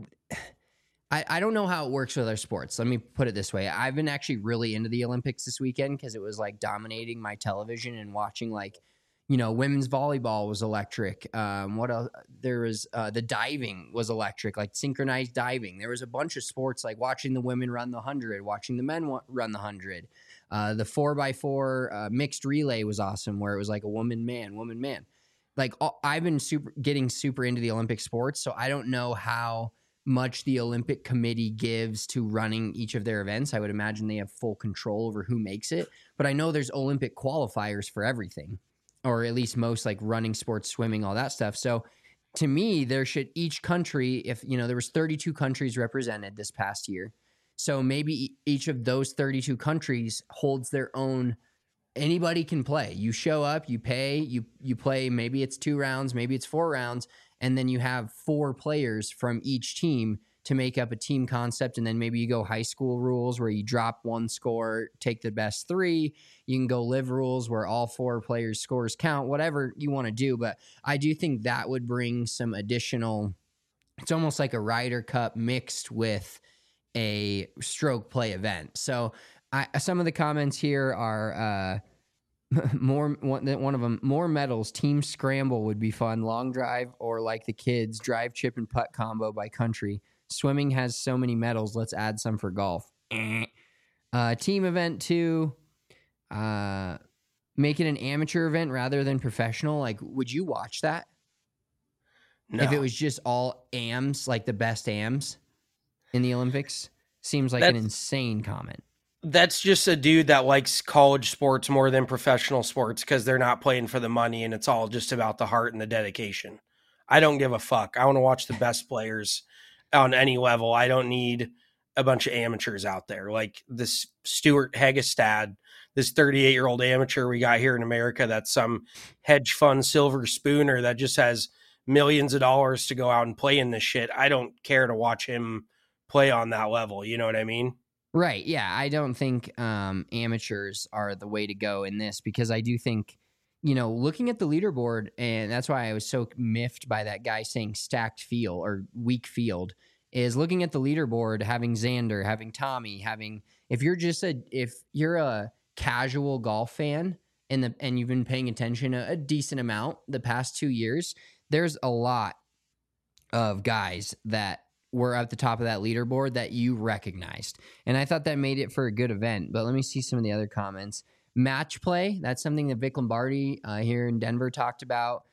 I don't know how it works with other sports. Let me put it this way. I've been actually really into the Olympics this weekend because it was like dominating my television and watching like, you know, women's volleyball was electric. What else? There was the diving was electric, like synchronized diving. There was a bunch of sports, like watching the women run the 100, watching the men run the 100. The 4x4 mixed relay was awesome, where it was like a woman man. Like I've been getting super into the Olympic sports, so I don't know how much the Olympic Committee gives to running each of their events. I would imagine they have full control over who makes it, but I know there's Olympic qualifiers for everything, or at least most, like running, sports, swimming, all that stuff. So to me, there should each country, if you know, there was 32 countries represented this past year. So maybe each of those 32 countries holds their own. Anybody can play. You show up, you pay, you play. Maybe it's 2 rounds, maybe it's 4 rounds. And then you have 4 players from each team to make up a team concept. And then maybe you go high school rules where you drop 1 score, take the best 3. You can go live rules where all 4 players' scores count, whatever you want to do. But I do think that would bring some additional, it's almost like a Ryder Cup mixed with a stroke play event. So some of the comments here are, one of them, more medals, team scramble would be fun, long drive, or like the kids, drive, chip, and putt combo by country. Swimming has so many medals, let's add some for golf. Team event 2, make it an amateur event rather than professional. Like, would you watch that? No. If it was just all AMs, like the best AMs in the Olympics? Seems like an insane comment. That's just a dude that likes college sports more than professional sports because they're not playing for the money and it's all just about the heart and the dedication. I don't give a fuck. I want to watch the best players on any level. I don't need a bunch of amateurs out there. Like this Stuart Hagestad, this 38-year-old amateur we got here in America that's some hedge fund silver spooner that just has millions of dollars to go out and play in this shit. I don't care to watch him play on that level. You know what I mean? Right. Yeah. I don't think amateurs are the way to go in this, because I do think looking at the leaderboard, and that's why I was so miffed by that guy saying stacked field or weak field, is looking at the leaderboard, having Xander, having Tommy, if you're a casual golf fan and you've been paying attention a decent amount the past 2 years, there's a lot of guys that were at the top of that leaderboard that you recognized. And I thought that made it for a good event. But let me see some of the other comments. Match play, that's something that Vic Lombardi here in Denver talked about.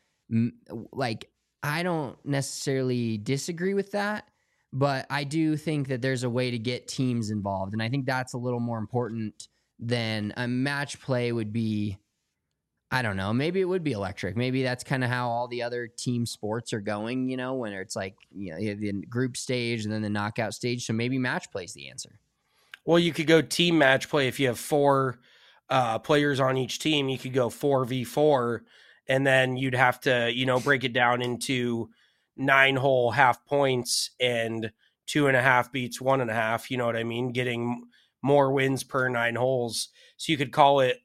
I don't necessarily disagree with that, but I do think that there's a way to get teams involved. And I think that's a little more important than a match play would be. I don't know. Maybe it would be electric. Maybe that's kind of how all the other team sports are going, when it's like, you have the group stage and then the knockout stage. So maybe match play is the answer. Well, you could go team match play. If you have 4 players on each team, you could go 4v4, and then you'd have to, break it down into 9-hole half points, and 2.5 beats 1.5. You know what I mean? Getting more wins per 9 holes. So you could call it,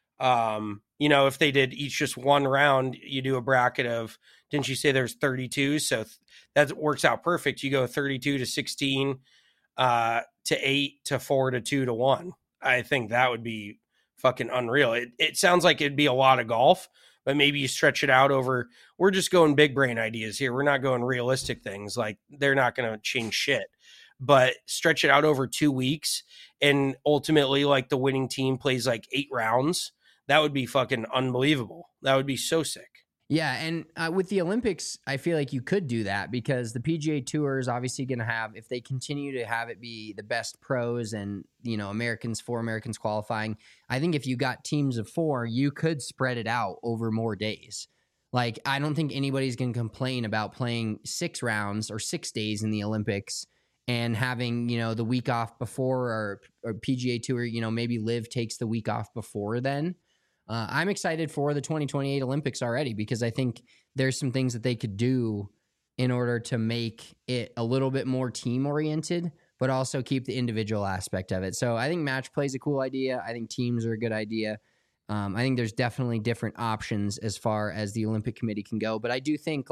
if they did each just one round, you do a bracket of, didn't you say there's 32? So that works out perfect. You go 32 to 16, to 8 to 4 to 2 to 1. I think that would be fucking unreal. It sounds like it'd be a lot of golf, but maybe you stretch it out over, we're just going big brain ideas here. We're not going realistic things. Like, they're not going to change shit, but stretch it out over 2 weeks. And ultimately, like, the winning team plays like 8 rounds. That would be fucking unbelievable. That would be so sick. Yeah, and with the Olympics, I feel like you could do that because the PGA Tour is obviously going to have, if they continue to have it be the best pros and, 4 Americans qualifying, I think if you got teams of 4, you could spread it out over more days. Like, I don't think anybody's going to complain about playing 6 rounds or 6 days in the Olympics and having, the week off before, or PGA Tour, maybe Liv takes the week off before then. I'm excited for the 2028 Olympics already because I think there's some things that they could do in order to make it a little bit more team-oriented, but also keep the individual aspect of it. So I think match play is a cool idea. I think teams are a good idea. I think there's definitely different options as far as the Olympic Committee can go. But I do think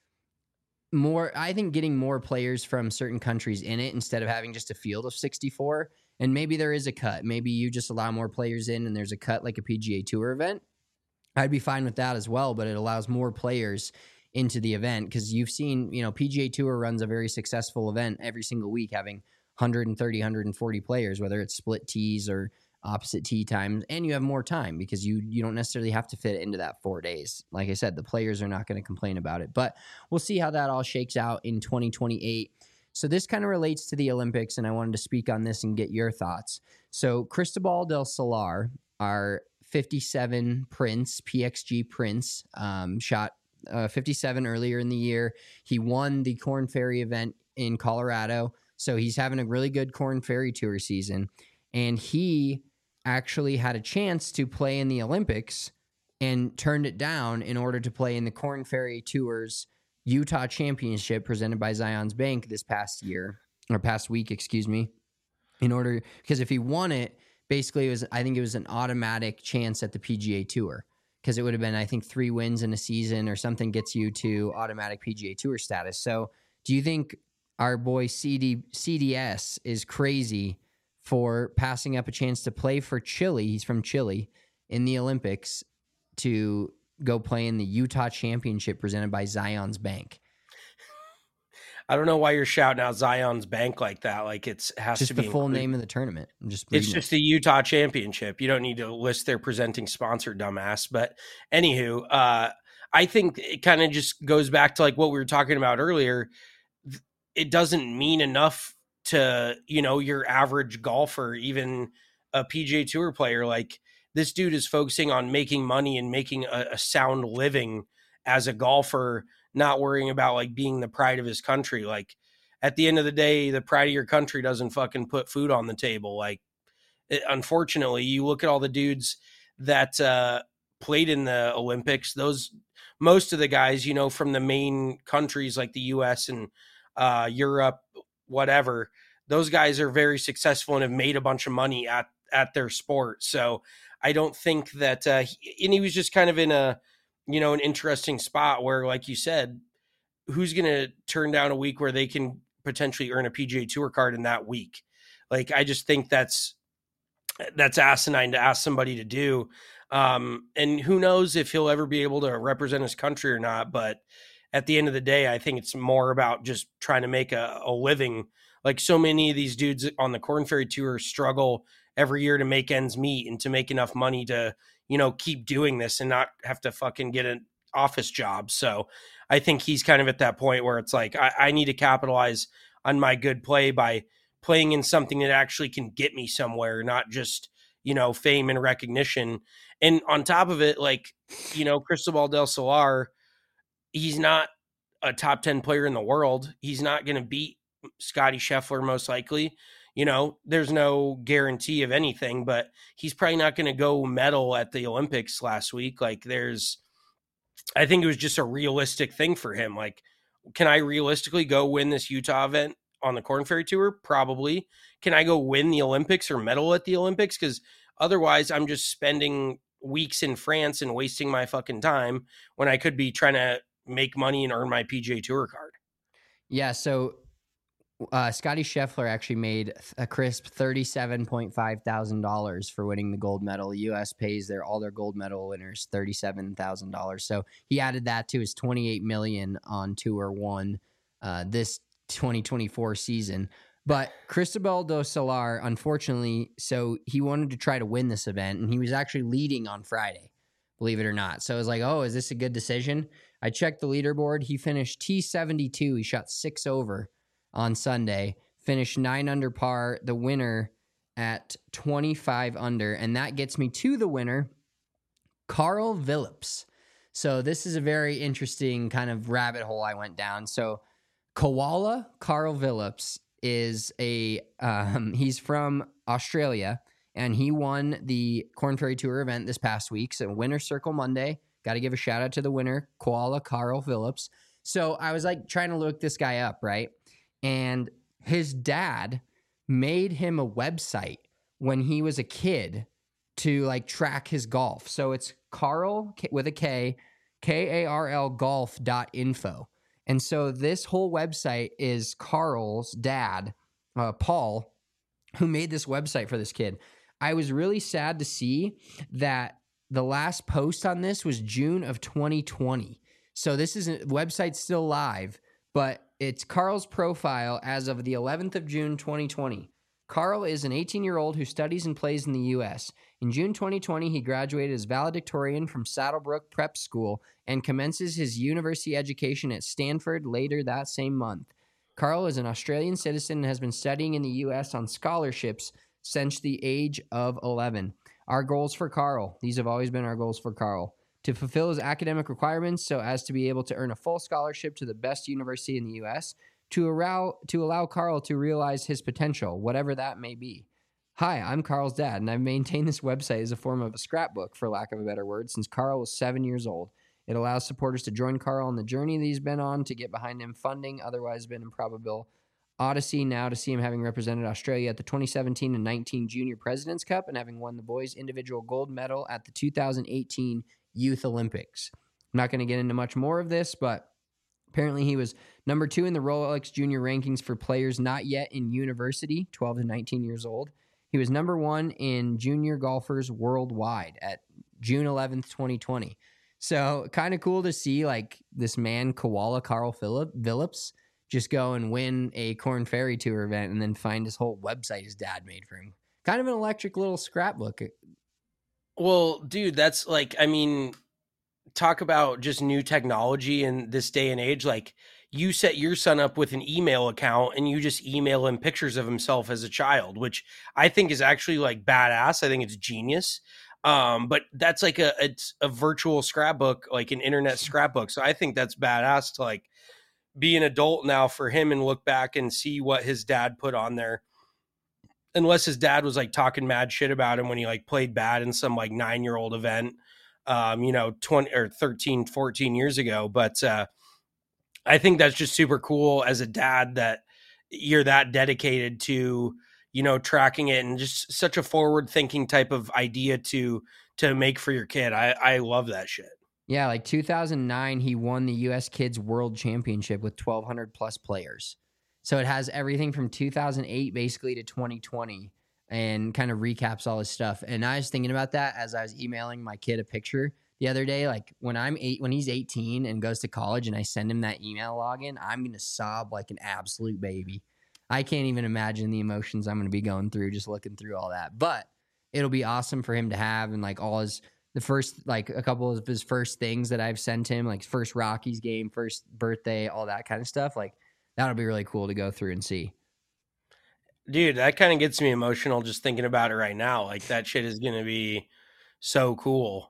getting more players from certain countries in it instead of having just a field of 64, and maybe there is a cut. Maybe you just allow more players in and there's a cut like a PGA Tour event. I'd be fine with that as well, but it allows more players into the event because you've seen, PGA Tour runs a very successful event every single week, having 130, 140 players, whether it's split tees or opposite tee times, and you have more time because you don't necessarily have to fit it into that 4 days. Like I said, the players are not going to complain about it, but we'll see how that all shakes out in 2028. So this kind of relates to the Olympics, and I wanted to speak on this and get your thoughts. So Cristobal del Solar, our 57 Prince, PXG Prince, shot 57 earlier in the year. He won the Corn Ferry event in Colorado, so he's having a really good Corn Ferry Tour season. And he actually had a chance to play in the Olympics and turned it down in order to play in the Corn Ferry Tour's Utah Championship presented by Zions Bank this past week, because if he won it, basically I think it was an automatic chance at the PGA Tour because it would have been, I think, 3 wins in a season or something gets you to automatic PGA Tour status. So do you think our boy CDS is crazy for passing up a chance to play for Chile? He's from Chile in the Olympics to go play in the Utah Championship presented by Zions Bank. I don't know why you're shouting out Zion's Bank like that. Like has just to be the full name of the tournament. It's just the Utah Championship. You don't need to list their presenting sponsor, dumbass. But anywho, I think it kind of just goes back to like what we were talking about earlier. It doesn't mean enough to, your average golfer, even a PGA Tour player. Like, this dude is focusing on making money and making a sound living as a golfer, not worrying about like being the pride of his country. Like, at the end of the day, the pride of your country doesn't fucking put food on the table. Like, unfortunately, you look at all the dudes that played in the Olympics, most of the guys, from the main countries like the US and Europe, whatever, those guys are very successful and have made a bunch of money at their sport. So I don't think that, and he was just kind of in a, an interesting spot where, like you said, who's going to turn down a week where they can potentially earn a PGA Tour card in that week? Like, I just think that's asinine to ask somebody to do. And who knows if he'll ever be able to represent his country or not. But at the end of the day, I think it's more about just trying to make a living. Like, so many of these dudes on the Korn Ferry Tour struggle every year to make ends meet and to make enough money to, keep doing this and not have to fucking get an office job. So I think he's kind of at that point where it's like, I need to capitalize on my good play by playing in something that actually can get me somewhere, not just, fame and recognition. And on top of it, like, Cristobal del Solar, he's not a top 10 player in the world. He's not going to beat Scotty Scheffler, most likely. There's no guarantee of anything, but he's probably not going to go medal at the Olympics last week. Like, I think it was just a realistic thing for him. Like, can I realistically go win this Utah event on the Korn Ferry Tour? Probably. Can I go win the Olympics or medal at the Olympics? Because otherwise I'm just spending weeks in France and wasting my fucking time when I could be trying to make money and earn my PGA Tour card. Yeah, so Scotty Scheffler actually made a crisp $37.5 thousand for winning the gold medal. The U.S. pays all their gold medal winners $37,000. So he added that to his $28 million on Tour 1 this 2024 season. But Cristobal del Solar, unfortunately, so he wanted to try to win this event, and he was actually leading on Friday, believe it or not. So I was like, oh, is this a good decision? I checked the leaderboard. He finished T72. He shot 6 over on Sunday, finished 9 under par, the winner at 25 under. And that gets me to the winner, Carl Phillips. So this is a very interesting kind of rabbit hole I went down. So Koala Carl Phillips is he's from Australia, and he won the Korn Ferry Tour event this past week. So Winner's Circle Monday. Got to give a shout out to the winner, Koala Carl Phillips. So I was like trying to look this guy up, right? And his dad made him a website when he was a kid to like track his golf. So it's Carl with a K, Karl golf.info. And so this whole website is Carl's dad, Paul, who made this website for this kid. I was really sad to see that the last post on this was June of 2020. So this website's still live, but it's Carl's profile as of the 11th of June, 2020. Carl is an 18-year-old who studies and plays in the U.S. In June 2020, he graduated as valedictorian from Saddlebrook Prep School and commences his university education at Stanford later that same month. Carl is an Australian citizen and has been studying in the U.S. on scholarships since the age of 11. Our goals for Carl. These have always been our goals for Carl. To fulfill his academic requirements so as to be able to earn a full scholarship to the best university in the U.S., to allow Carl to realize his potential, whatever that may be. Hi, I'm Carl's dad, and I've maintained this website as a form of a scrapbook, for lack of a better word, since Carl was 7 years old. It allows supporters to join Carl on the journey that he's been on to get behind him funding, otherwise been improbable. Odyssey now to see him having represented Australia at the 2017 and 19 Junior President's Cup and having won the boys' individual gold medal at the 2018 Youth Olympics. I'm not going to get into much more of this, but apparently he was number 2 in the Rolex Junior rankings for players not yet in university, 12 to 19 years old. He was number 1 in junior golfers worldwide at June 11th, 2020. So kind of cool to see like this man, Koala Carl Phillips, just go and win a Korn Ferry Tour event and then find his whole website his dad made for him. Kind of an electric little scrapbook. Well, dude, that's like, I mean, talk about just new technology in this day and age. Like, you set your son up with an email account and you just email him pictures of himself as a child, which I think is actually like badass. I think it's genius. But that's like it's a virtual scrapbook, like an internet scrapbook. So I think that's badass to like be an adult now for him and look back and see what his dad put on there. Unless his dad was like talking mad shit about him when he like played bad in some like 9-year-old event, 20 or 13, 14 years ago. But I think that's just super cool as a dad that you're that dedicated to, tracking it, and just such a forward thinking type of idea to make for your kid. I love that shit. Yeah, like 2009, he won the U.S. Kids World Championship with 1,200 plus players. So it has everything from 2008 basically to 2020 and kind of recaps all his stuff. And I was thinking about that as I was emailing my kid a picture the other day. Like when he's 18 and goes to college and I send him that email login, I'm going to sob like an absolute baby. I can't even imagine the emotions I'm going to be going through just looking through all that. But it'll be awesome for him to have, and like a couple of his first things that I've sent him, like first Rockies game, first birthday, all that kind of stuff. Like that'll be really cool to go through and see. Dude, that kind of gets me emotional just thinking about it right now. Like that shit is going to be so cool.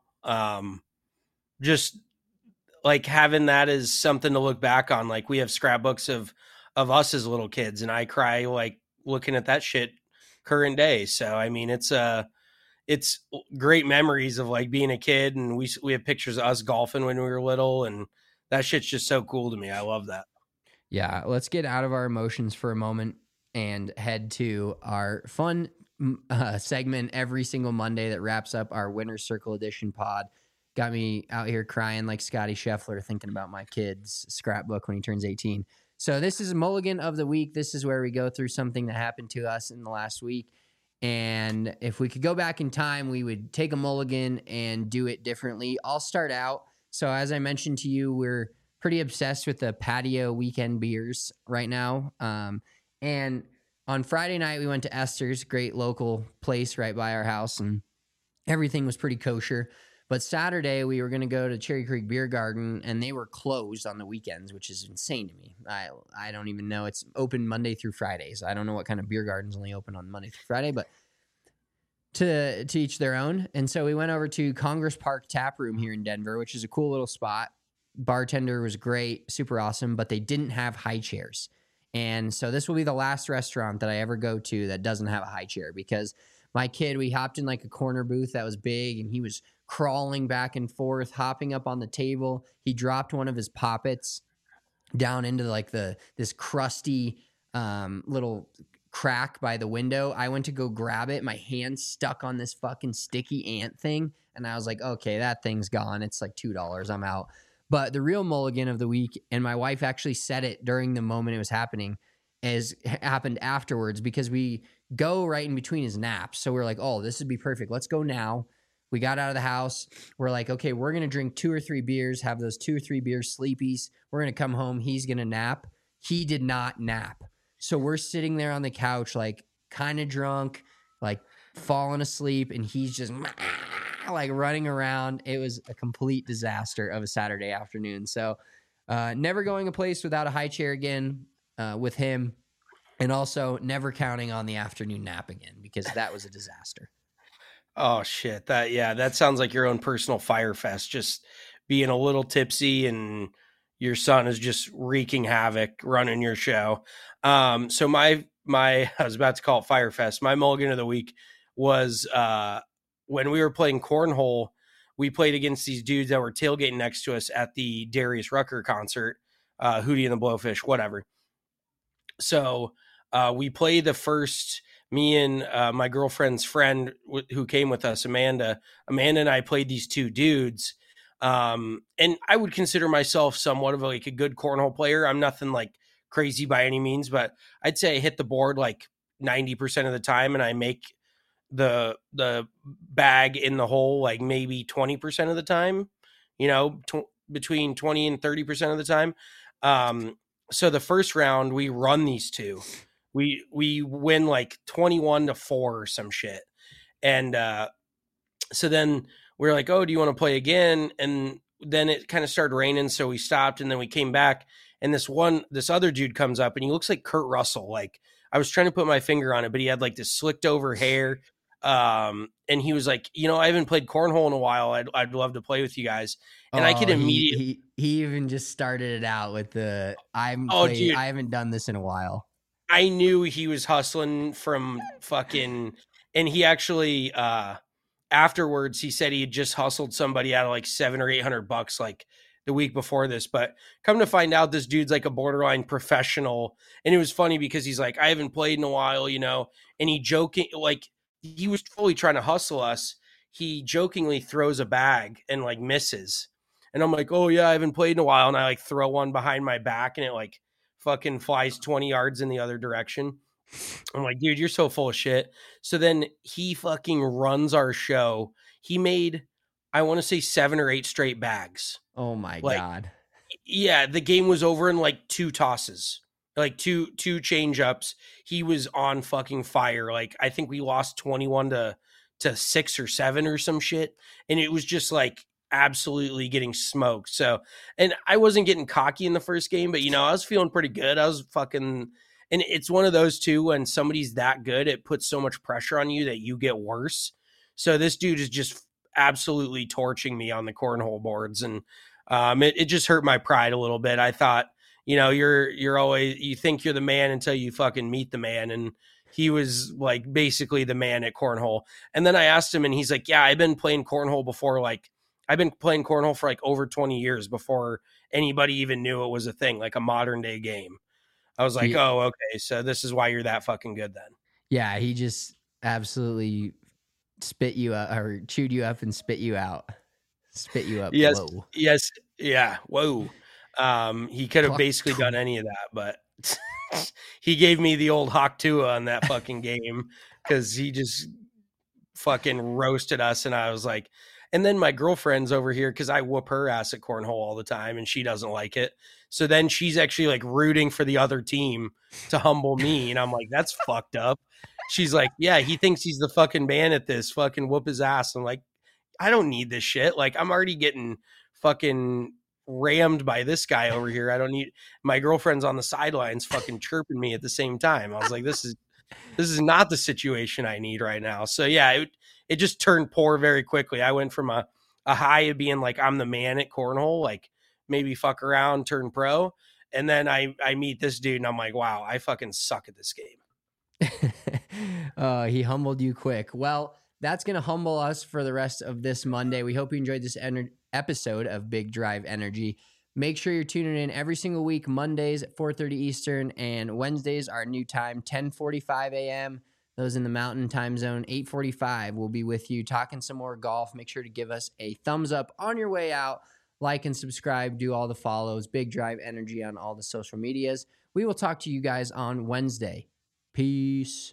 Just like having that as something to look back on. Like we have scrapbooks of us as little kids, and I cry like looking at that shit current day. So, I mean, it's great memories of like being a kid, and we have pictures of us golfing when we were little, and that shit's just so cool to me. I love that. Yeah. Let's get out of our emotions for a moment and head to our fun segment every single Monday that wraps up our Winner's Circle Edition pod. Got me out here crying like Scotty Scheffler thinking about my kid's scrapbook when he turns 18. So this is a Mulligan of the Week. This is where we go through something that happened to us in the last week. And if we could go back in time, we would take a mulligan and do it differently. I'll start out. So as I mentioned to you, we're pretty obsessed with the patio weekend beers right now. And on Friday night, we went to Esther's, great local place right by our house, and everything was pretty kosher. But Saturday, we were going to go to Cherry Creek Beer Garden, and they were closed on the weekends, which is insane to me. I don't even know. It's open Monday through Fridays. I don't know what kind of beer garden's only open on Monday through Friday, but to each their own. And so we went over to Congress Park Tap Room here in Denver, which is a cool little spot. Bartender was great, super awesome, but they didn't have high chairs. And so this will be the last restaurant that I ever go to that doesn't have a high chair, because my kid, we hopped in like a corner booth that was big, and he was crawling back and forth, hopping up on the table. He dropped one of his poppets down into like this crusty little crack by the window. I went to go grab it. My hand stuck on this fucking sticky ant thing. And I was like, okay, that thing's gone. It's like $2. I'm out. But the real mulligan of the week, and my wife actually said it during the moment it was happening, happened afterwards, because we go right in between his naps. So we're like, oh, this would be perfect. Let's go now. We got out of the house. We're like, okay, we're going to drink 2 or 3 beers, have those 2 or 3 beers sleepies. We're going to come home. He's going to nap. He did not nap. So we're sitting there on the couch, like kind of drunk, like falling asleep, and he's just like running around. It was a complete disaster of a Saturday afternoon. So never going a place without a high chair again with him, and also never counting on the afternoon nap again, because that was a disaster. Oh shit. That sounds like your own personal fire fest, just being a little tipsy and your son is just wreaking havoc, running your show. So my I was about to call it Fire Fest. My mulligan of the week was when we were playing cornhole. We played against these dudes that were tailgating next to us at the Darius Rucker concert, Hootie and the Blowfish, whatever. So we played the first. Me and my girlfriend's friend who came with us, Amanda and I played these 2 dudes. And I would consider myself somewhat of like a good cornhole player. I'm nothing like crazy by any means, but I'd say I hit the board like 90% of the time, and I make the bag in the hole like maybe 20% of the time, between 20 and 30% of the time. So the first round we run these 2. We win like 21-4 or some shit. And so then we're like, oh, do you want to play again? And then it kind of started raining, so we stopped, and then we came back, and this other dude comes up, and he looks like Kurt Russell. Like, I was trying to put my finger on it, but he had like this slicked over hair. And he was like, I haven't played cornhole in a while. I'd love to play with you guys. And I could immediately. He even just started it out with I haven't done this in a while. I knew he was hustling from fucking, and he actually, afterwards, he said he had just hustled somebody out of like $700 or $800, like the week before this, but come to find out this dude's like a borderline professional. And it was funny because he's like, I haven't played in a while, you know, and he was fully trying to hustle us. He jokingly throws a bag and like misses. And I'm like, oh yeah, I haven't played in a while. And I like throw one behind my back and it like fucking flies 20 yards in the other direction. I'm like, dude, you're so full of shit. So then he fucking runs our show. He made, I want to say 7 or 8 straight bags. Oh my God. Yeah. The game was over in like 2 tosses, like two change ups. He was on fucking fire. Like, I think we lost 21 to 6 or 7 or some shit. And it was just like absolutely getting smoked. So, and I wasn't getting cocky in the first game, but you know, I was feeling pretty good. I was fucking, and it's one of those too, when somebody's that good, it puts so much pressure on you that you get worse. So this dude is just absolutely torching me on the cornhole boards. And it just hurt my pride a little bit. I thought, you know, you're always, you think you're the man until you fucking meet the man. And he was like basically the man at cornhole. And then I asked him and he's like, yeah, I've been playing cornhole before. Like, I've been playing cornhole for like over 20 years before anybody even knew it was a thing, like a modern day game. I was like, oh, okay. So this is why you're that fucking good then. Yeah. He just absolutely spit you out or chewed you up and spit you out. Spit you up. Yes. Whoa. Yes. Yeah. Whoa. He could have basically done any of that, but he gave me the old Hawk Tua on that fucking game because he just fucking roasted us. And I was like, and then my girlfriend's over here because I whoop her ass at cornhole all the time and she doesn't like it. So then she's actually like rooting for the other team to humble me. And I'm like, that's fucked up. She's like, yeah, he thinks he's the fucking man at this, fucking whoop his ass. I'm like, I don't need this shit. Like, I'm already getting fucking rammed by this guy over here. I don't need, my girlfriend's on the sidelines fucking chirping me at the same time. I was like, this is not the situation I need right now. So yeah, it just turned poor very quickly. I went from a high of being like, I'm the man at cornhole, like maybe fuck around, turn pro. And then I meet this dude and I'm like, wow, I fucking suck at this game. He humbled you quick. Well, that's going to humble us for the rest of this Monday. We hope you enjoyed this episode of Big Drive Energy. Make sure you're tuning in every single week, Mondays at 4:30 Eastern, and Wednesdays, our new time, 10:45 a.m. Those in the Mountain Time Zone, 8:45. We'll be with you talking some more golf. Make sure to give us a thumbs up on your way out. Like and subscribe. Do all the follows. Big Drive Energy on all the social medias. We will talk to you guys on Wednesday. Peace.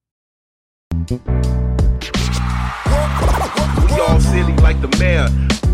We all silly like the mayor.